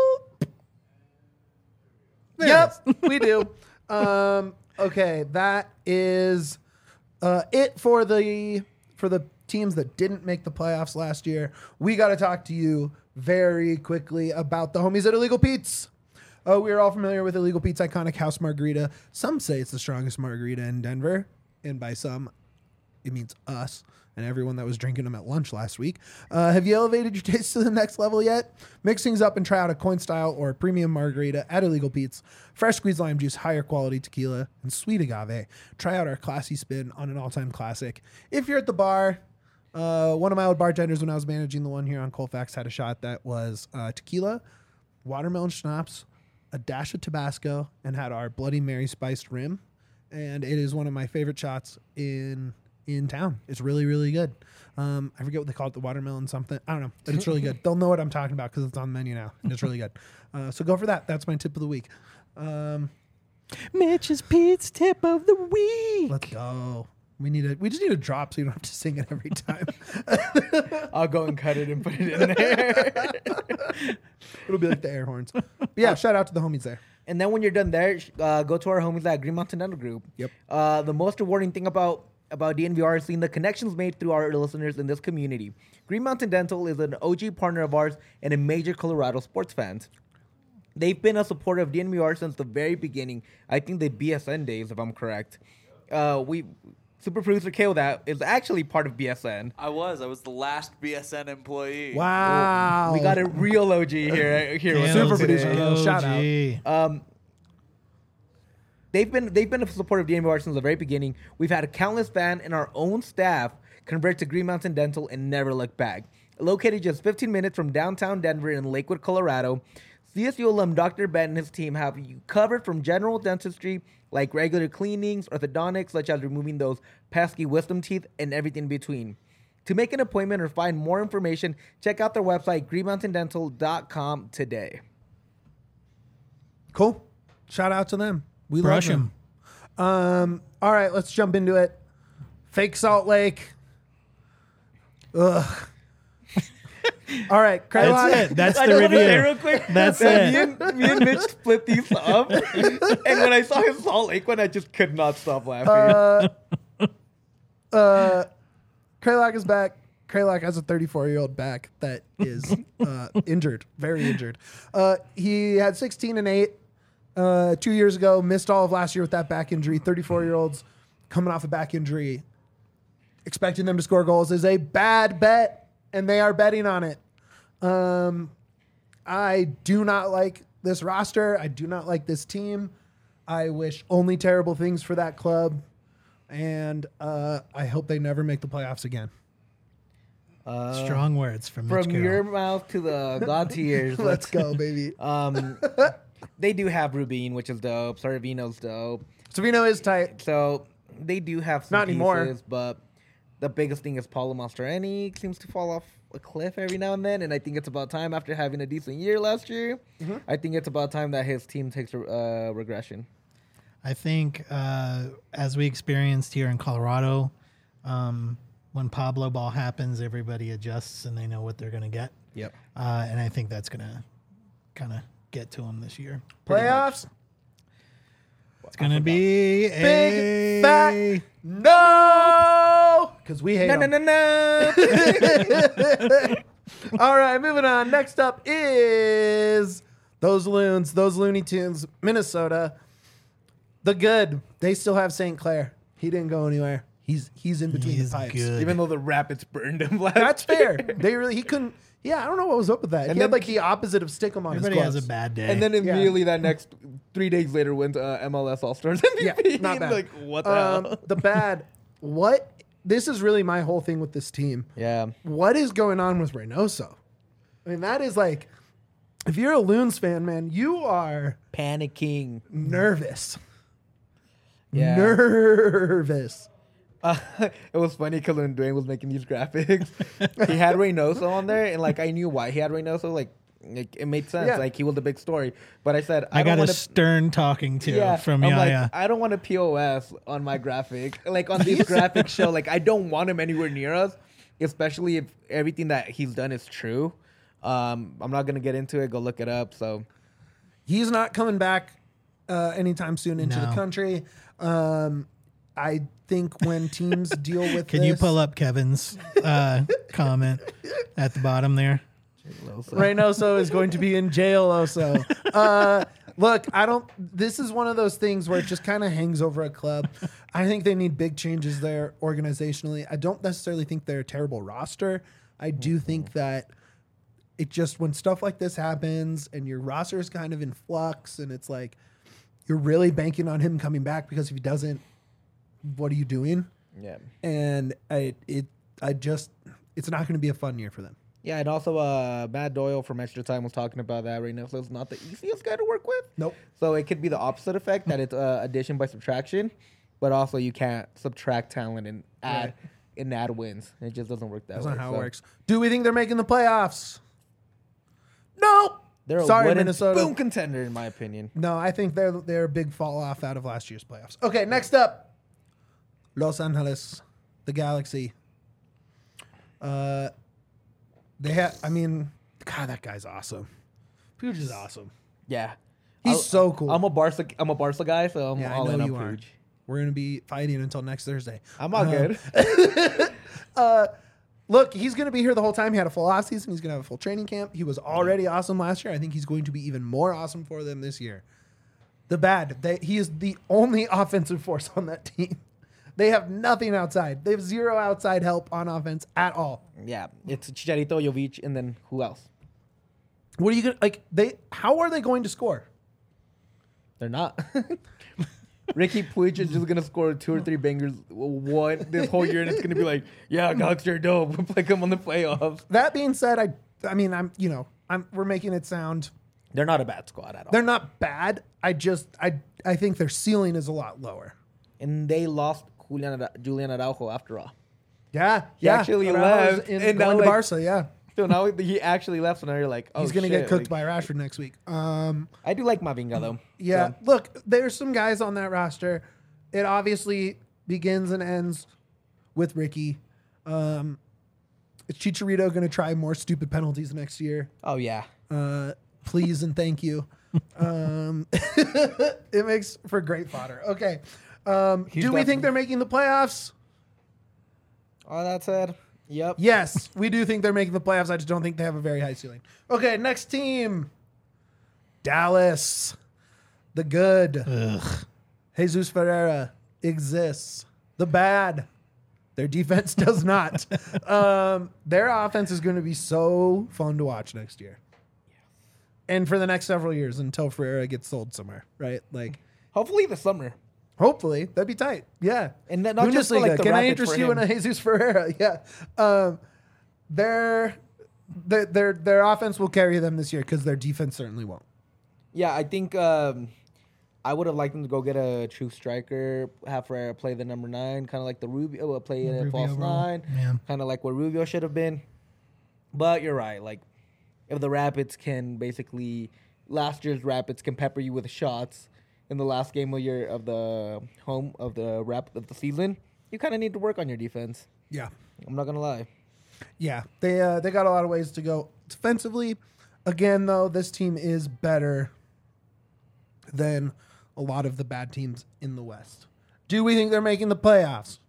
Yep, we do. Um, okay, that is uh, it for the for the teams that didn't make the playoffs last year. We got to talk to you very quickly about the homies at Illegal Pete's. Uh, we are all familiar with Illegal Pete's iconic house margarita. Some say it's the strongest margarita in Denver, and by some, it means us and everyone that was drinking them at lunch last week. Uh, have you elevated your taste to the next level yet? Mix things up and try out a coin style or a premium margarita at Illegal Pete's. Fresh squeezed lime juice, higher quality tequila, and sweet agave. Try out our classy spin on an all-time classic. If you're at the bar, uh, one of my old bartenders when I was managing the one here on Colfax had a shot that was uh, tequila, watermelon schnapps, a dash of Tabasco, and had our Bloody Mary spiced rim. And it is one of my favorite shots in in town. It's really, really good. Um, I forget what they call it, the watermelon something. I don't know, but it's really good. They'll know what I'm talking about because it's on the menu now, and it's really good. Uh, so go for that. That's my tip of the week. Um, Mitch's Pete's tip of the week. let's go. We need a. We just need a drop so you don't have to sing it every time. I'll go and cut it and put it in there. It'll be like the air horns. But yeah, shout out to the homies there. And then when you're done there, sh- uh, go to our homies at Green Mountain Dental Group. Yep. Uh, the most rewarding thing about about D N V R is seeing the connections made through our listeners in this community. Green Mountain Dental is an O G partner of ours and a major Colorado sports fans. They've been a supporter of D N V R since the very beginning. I think the B S N days, if I'm correct. Uh, we super producer Kale that is actually part of B S N. I was. I was the last B S N employee. Wow. We got a real O G here. here with Super us producer today. Kale. Shout out. O G. Um, they've been they've been a supporter of D N V R since the very beginning. We've had a countless fan and our own staff convert to Green Mountain Dental and never look back. Located just fifteen minutes from downtown Denver in Lakewood, Colorado, C S U alum Doctor Ben and his team have you covered from general dentistry like regular cleanings, orthodontics such as removing those pesky wisdom teeth, and everything in between. To make an appointment or find more information, check out their website green mountain dental dot com today. Cool. Shout out to them. We Brush love them. Um, all right, let's jump into it. Fake Salt Lake. Ugh. All right, Kralon. That's it. That's I the just want to say review. real quick. That's that Me it. and, me and Mitch flipped these up, and when I saw his Salt Lake one, I just could not stop laughing. Uh, uh, Kralak is back. Kralak has a thirty-four-year-old back that is uh, injured, very injured. Uh, he had sixteen and eight uh, two years ago, missed all of last year with that back injury. thirty-four-year-olds coming off a back injury, expecting them to score goals is a bad bet, and they are betting on it. Um, I do not like this roster. I do not like this team. I wish only terrible things for that club, and uh, I hope they never make the playoffs again. Uh, Strong words from Mitch from Carroll. your mouth to the God's ears. Let's go, baby. Um, they do have Rubin, which is dope. Sorvino's dope. Savino is tight. So they do have some Not pieces, anymore. but the biggest thing is Paulo Mastroeni seems to fall off a cliff every now and then, and I think it's about time after having a decent year last year. Mm-hmm. I think it's about time that his team takes a uh, regression. I think uh, as we experienced here in Colorado, um, when Pablo ball happens, everybody adjusts and they know what they're going to get. Yep. Uh, and I think that's going to kind of get to them this year. Playoffs? It's gonna be a Big fat no, because we hate No, no, them. no, no. All right, moving on. Next up is those loons, those Looney Tunes, Minnesota. The good. They still have Saint Clair. He didn't go anywhere. He's he's in between He's the pipes. good. Even though the Rapids burned him last That's year. fair. They really he couldn't. Yeah, I don't know what was up with that. And he had then- like the opposite of Stickum on Everybody his has gloves. a bad day. And then immediately that next three days later went to uh, M L S All Stars M V P. Yeah, not bad. Like what the um, hell? the bad. What? This is really my whole thing with this team. Yeah. What is going on with Reynoso? I mean, that is like, if you're a Loons fan, man, you are Panicking. nervous. Yeah. Nervous. Uh, it was funny because when Dwayne was making these graphics, he had Reynoso on there, and like I knew why he had Reynoso. Like, like it made sense. Yeah. Like he was the big story. But I said I, I don't got a want to. stern talking to Yeah, from I'm like, Yaya. I don't want a P O S on my graphic. Like on this graphic show, like I don't want him anywhere near us, especially if everything that he's done is true. Um, I'm not gonna get into it. Go look it up. So He's not coming back uh, anytime soon into No. the country. Um, I think when teams deal with Can this, you pull up Kevin's uh, comment at the bottom there? Reynoso is going to be in jail also. Uh, look, I don't, this is one of those things where it just kind of hangs over a club. I think they need big changes there organizationally. I don't necessarily think they're a terrible roster. I do think that it just, when stuff like this happens and your roster is kind of in flux and it's like, you're really banking on him coming back because if he doesn't, what are you doing? yeah, And I, it, I just, it's not going to be a fun year for them. yeah, and also uh, Matt Doyle from Extra Time was talking about that. Reynoso's not the easiest guy to work with. Nope. So it could be the opposite effect that it's uh, addition by subtraction, but also you can't subtract talent and add Right. and add wins. It just doesn't work that That's way. not how So it works. Do we think they're making the playoffs? Nope. They're a Sorry, wooden Minnesota. spoon contender, in my opinion. No, I think they're they're a big fall off out of last year's playoffs. Okay, next up, Los Angeles, the Galaxy. Uh, they have. I mean, God, that guy's awesome. Puig is awesome. Yeah, He's I'll- so cool. I'm a Barca. I'm a Barca guy, so I'm yeah, I all in know on you are. Puig. We're gonna be fighting until next Thursday. I'm all Um, good. Look, he's going to be here the whole time. He had a full offseason. He's going to have a full training camp. He was already awesome last year. I think he's going to be even more awesome for them this year. The bad, they, he is the only offensive force on that team. They have nothing outside. They have zero outside help on offense at all. Yeah, it's Chicharito, Jovic, and then who else? What are you going to, like, they, how are they going to score? They're not. Ricky Puig is just gonna score two or three bangers one this whole year, and it's gonna be like, yeah, Galaxy are dope. We'll play them on the playoffs. That being said, I, I mean, I'm, you know, I'm, we're making it sound, They're not a bad squad at all. they're not bad. I just, I, I think their ceiling is a lot lower. and they lost Julian, Ara- Julian Araujo after all. Yeah. He yeah. actually Araujo's left, in, and going now, to like- Barca, yeah. So now he actually left, so now you're like, oh, He's going to shit. get cooked like, by Rashford next week. Um, I do like Mavinga though. yeah. So, Look, there's some guys on that roster. It obviously begins and ends with Ricky. Um, is Chicharito going to try more stupid penalties next year? oh yeah. Uh, please and thank you. Um, it makes for great fodder. Okay. Um, He's do we definitely- think they're making the playoffs? All that said, yep. Yes, we do think they're making the playoffs. I just don't think they have a very high ceiling. Okay, next team. Dallas. The good. Ugh. Jesus Ferreira exists. The bad. Their defense does not. um, their offense is going to be so fun to watch next year. And for the next several years until Ferreira gets sold somewhere, right? Like, Hopefully the summer. hopefully, that'd be tight. Yeah. And then not just for, like, the Can I Rapids interest for you in him. a Jesus Ferreira? Yeah. Um, their, their their their offense will carry them this year because their defense certainly won't. Yeah, I think um, I would have liked them to go get a true striker, have Ferreira play the number nine, kind of like the Rubio, uh, play The a Rubio false role. nine, Yeah. kind of like what Rubio should have been. But you're right. Like, if the Rapids can basically, last year's Rapids can pepper you with shots in the last game of your of the home of the rap of the season, you kind of need to work on your defense. Yeah. I'm not gonna lie. Yeah, they uh, they got a lot of ways to go defensively. Again, though, this team is better than a lot of the bad teams in the West. Do we think they're making the playoffs?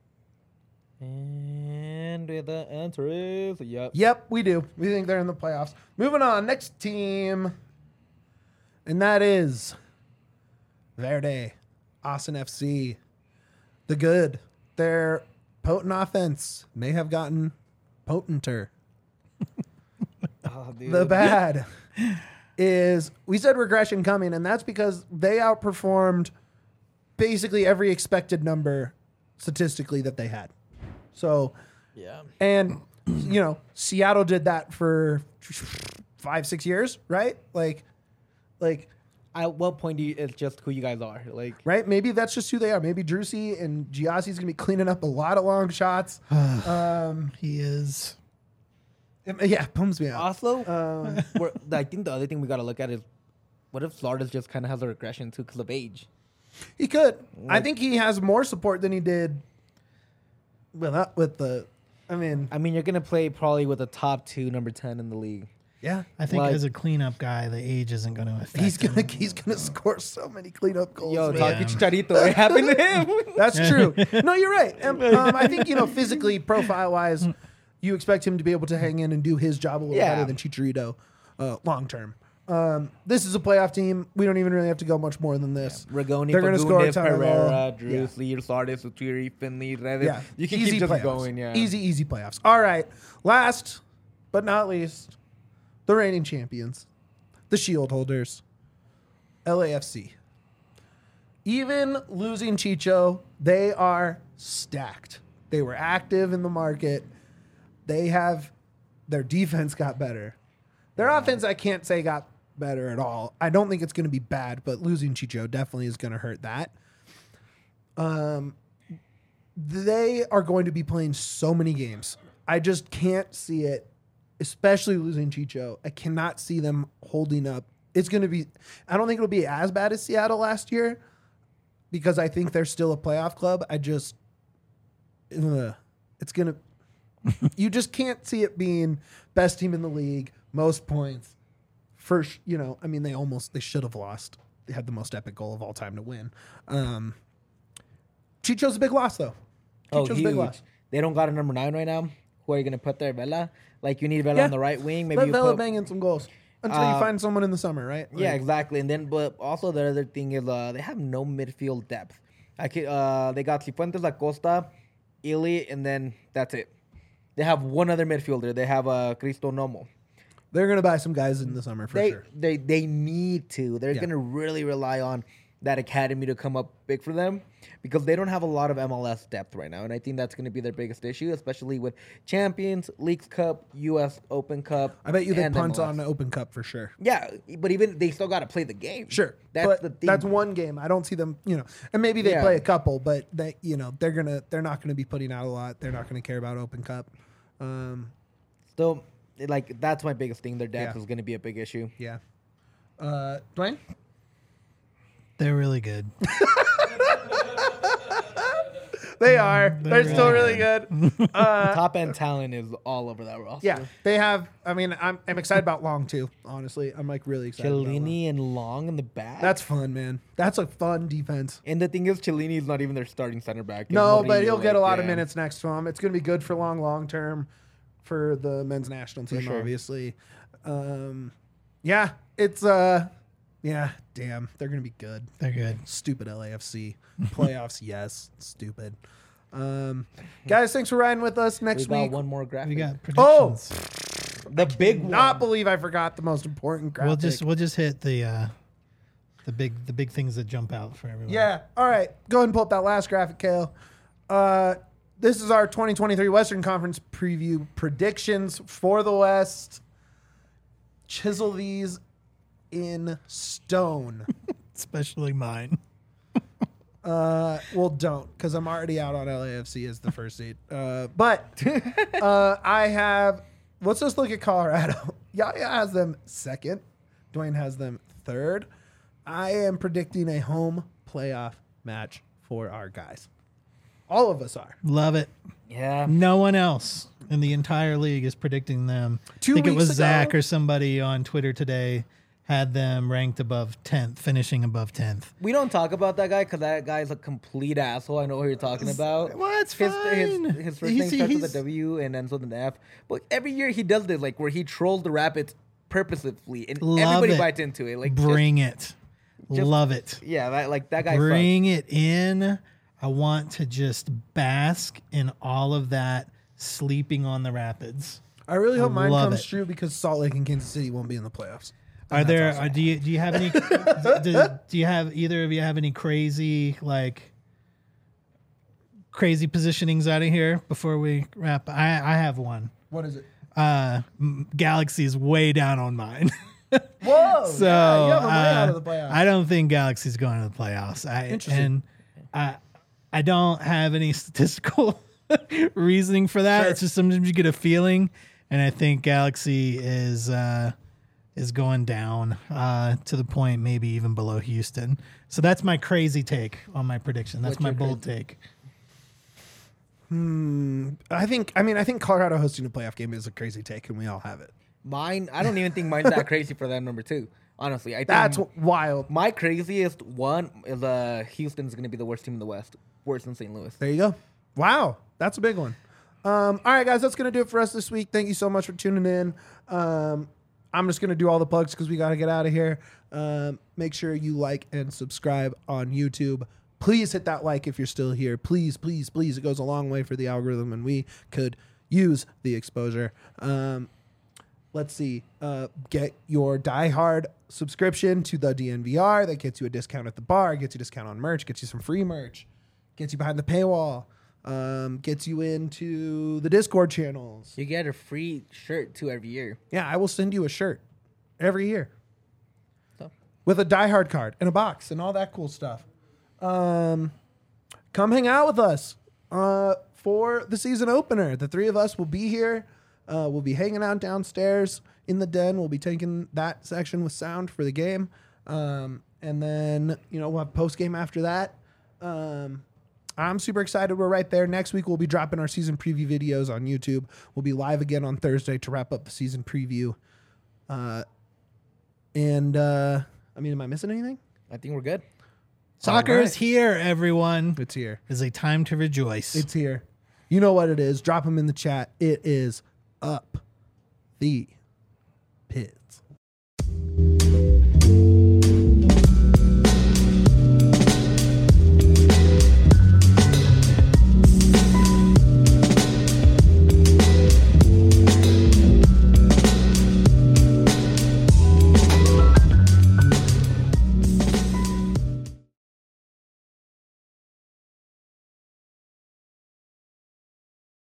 And the answer is yep. Yep, we do. We think they're in the playoffs. Moving on, next team, and that is Verde, Austin F C. The good. Their potent offense may have gotten potenter. Oh, dude. The bad is we said regression coming, and that's because they outperformed basically every expected number statistically that they had. So, Yeah. and, you know, Seattle did that for five, six years, right? Like, like, At what point do you, it's just who you guys are? Like, right? Maybe that's just who they are. Maybe Drusy and Giassi's going to be cleaning up a lot of long shots. um, He is. yeah, bums me out. also, Um, we're, I think the other thing we got to look at is what if Florida's just kind of has a regression too because of age? he could. I think he has more support than he did with, uh, with the, I mean, I mean, you're going to play probably with a top two, number ten in the league. yeah. I think Like- as a cleanup guy, the age isn't going to affect He's gonna him. he's gonna score so many cleanup goals. Yo, man. talk Yeah. to Chicharito. It happened to him. That's true. No, you're right. Um, um, I think, you know, physically, profile wise, you expect him to be able to hang in and do his job a little Yeah. better than Chicharito uh, long term. Um, this is a playoff team. We don't even really have to go much more than this. Ragoni, They're gonna score a Fagundes, ton of Pereira, goal. Drews, Lee, Sardis, Utiri, Finley, Reddit. Yeah, You can easy keep just playoffs. going, yeah. Easy, easy playoffs. All right. Last but not least, the reigning champions, the Shield holders, L A F C. Even losing Chicho, they are stacked. They were active in the market. They have their defense got better. Their offense, I can't say got better at all. I don't think it's going to be bad, but losing Chicho definitely is going to hurt that. Um, they are going to be playing so many games. I just can't see it, especially losing Chicho. I cannot see them holding up. It's going to be, I don't think it'll be as bad as Seattle last year because I think they're still a playoff club. I just, ugh, it's going to, you just can't see it being best team in the league, most points. First, you know, I mean, they almost, they should have lost. They had the most epic goal of all time to win. Um, Chicho's a big loss, though. Oh, Chicho's a huge. big loss. They don't got a number nine right now. Who are you going to put there? Vela? Like, you need Vela Yeah. on the right wing. Maybe Let you Vela put... bang in some goals until you Uh, find someone in the summer, right? Yeah, Like, exactly. And then, but also the other thing is uh, they have no midfield depth. I could, uh, they got Cifuentes, Acosta, Ili, and then that's it. They have one other midfielder. They have uh, Cristo Nomo. they're gonna buy some guys in the summer for they, sure. they they need to. They're Yeah. going to really rely on that academy to come up big for them because they don't have a lot of M L S depth right now. And I think that's going to be their biggest issue, especially with Champions, Leagues Cup, U S Open Cup. I bet you they and punt M L S. on the Open Cup for sure. Yeah, but even they still got to play the game. Sure, That's but the thing. that's one game. I don't see them, you know, and maybe they Yeah. play a couple, but they, you know, they're gonna, they're not gonna be putting out a lot. They're not gonna care about Open Cup. Um, Still, like, that's my biggest thing. Their depth Yeah. is going to be a big issue. yeah. Uh, Dwayne. They're really good. They are. They're, They're still really really good. Uh, Top end talent is all over that roster. yeah, they have. I mean, I'm, I'm excited about Long too. Honestly, I'm like really excited. about Long. Cellini and Long in the back. That's fun, man. That's a fun defense. and the thing is, Cellini is not even their starting center back. It's No, but Murillo, he'll get a like, lot of yeah. minutes next to him. It's going to be good for long, long term for the men's national team, sure. obviously. Um, yeah, it's uh, yeah, damn, they're going to be good. They're good. Stupid L A F C playoffs, yes, stupid. Um, guys, thanks for riding with us. We Next got week, one more graphic. We got Oh! predictions. the big one. not believe I forgot the most important graphic. We'll just we'll just hit the uh, the big the big things that jump out for everyone. Yeah. All right. Go ahead and pull up that last graphic, Kale. Uh, this is our twenty twenty-three Western Conference preview predictions for the West. Chisel these in stone. especially mine. Uh, well, don't, because I'm already out on L A F C as the first seed. Uh, but uh, I have. Let's just look at Colorado. Yaya has them second. Dwayne has them third. I am predicting a home playoff match for our guys. All of us are. Love it. Yeah. No one else in the entire league is predicting them. Two I think it weeks was Zach ago- or somebody on Twitter today had them ranked above tenth, finishing above tenth. We don't talk about that guy because that guy's a complete asshole. I know what you're talking about. Well, it's his, fine. His, his first He's- name starts with he's- a W and ends with an F. But every year he does this, like where he trolls the Rapids purposefully, and Love everybody it. bites into it. Like, just- Bring it. just- Love it. yeah, that, like that guy. Bring it in. I want to just bask in all of that sleeping on the Rapids. I really hope I mine love comes it. true because Salt Lake and Kansas City won't be in the playoffs. Are And there? that's awesome. Are, do you do you have any? do, do you have either of you have any crazy like crazy positionings out of here before we wrap? I I have one. What is it? Uh, M- Galaxy is way down on mine. Whoa! So yeah, you have them way uh, out of the playoffs. I don't think Galaxy's going to the playoffs. I, Interesting. And I I don't have any statistical reasoning for that. Sure. It's just sometimes you get a feeling, and I think Galaxy is uh, is going down uh, to the point maybe even below Houston. So that's my crazy take on my prediction. That's What's my your bold crazy- take. I think. I mean, I think Colorado hosting a playoff game is a crazy take, and we all have it. Mine, I don't even think mine's that crazy for that number two. Honestly, I think That's wild. my craziest one is uh, Houston's going to be the worst team in the West, worse than Saint Louis. There you go. Wow, that's a big one. Um, all right, guys, that's gonna do it for us this week. Thank you so much for tuning in. Um, I'm just gonna do all the plugs because we gotta get out of here. Um, make sure you like and subscribe on YouTube. Please hit that like if you're still here. Please, please, please. It goes a long way for the algorithm, and we could use the exposure. Um, let's see. Uh, get your Die Hard subscription to the D N V R. That gets you a discount at the bar, gets you a discount on merch, gets you some free merch, gets you behind the paywall, um, gets you into the Discord channels. You get a free shirt too every year. Yeah, I will send you a shirt every year So, with a Die Hard card and a box and all that cool stuff. Um, come hang out with us uh, for the season opener. The three of us will be here. Uh, we'll be hanging out downstairs in the den. We'll be taking that section with sound for the game. Um, and then, you know, we'll have post game after that. Um, I'm super excited. We're right there. Next week, we'll be dropping our season preview videos on YouTube. We'll be live again on Thursday to wrap up the season preview. Uh, and, uh, I mean, am I missing anything? I think we're good. Soccer All right. is here, everyone. It's here. It's a time to rejoice. It's here. You know what it is. Drop them in the chat. It is up the piz.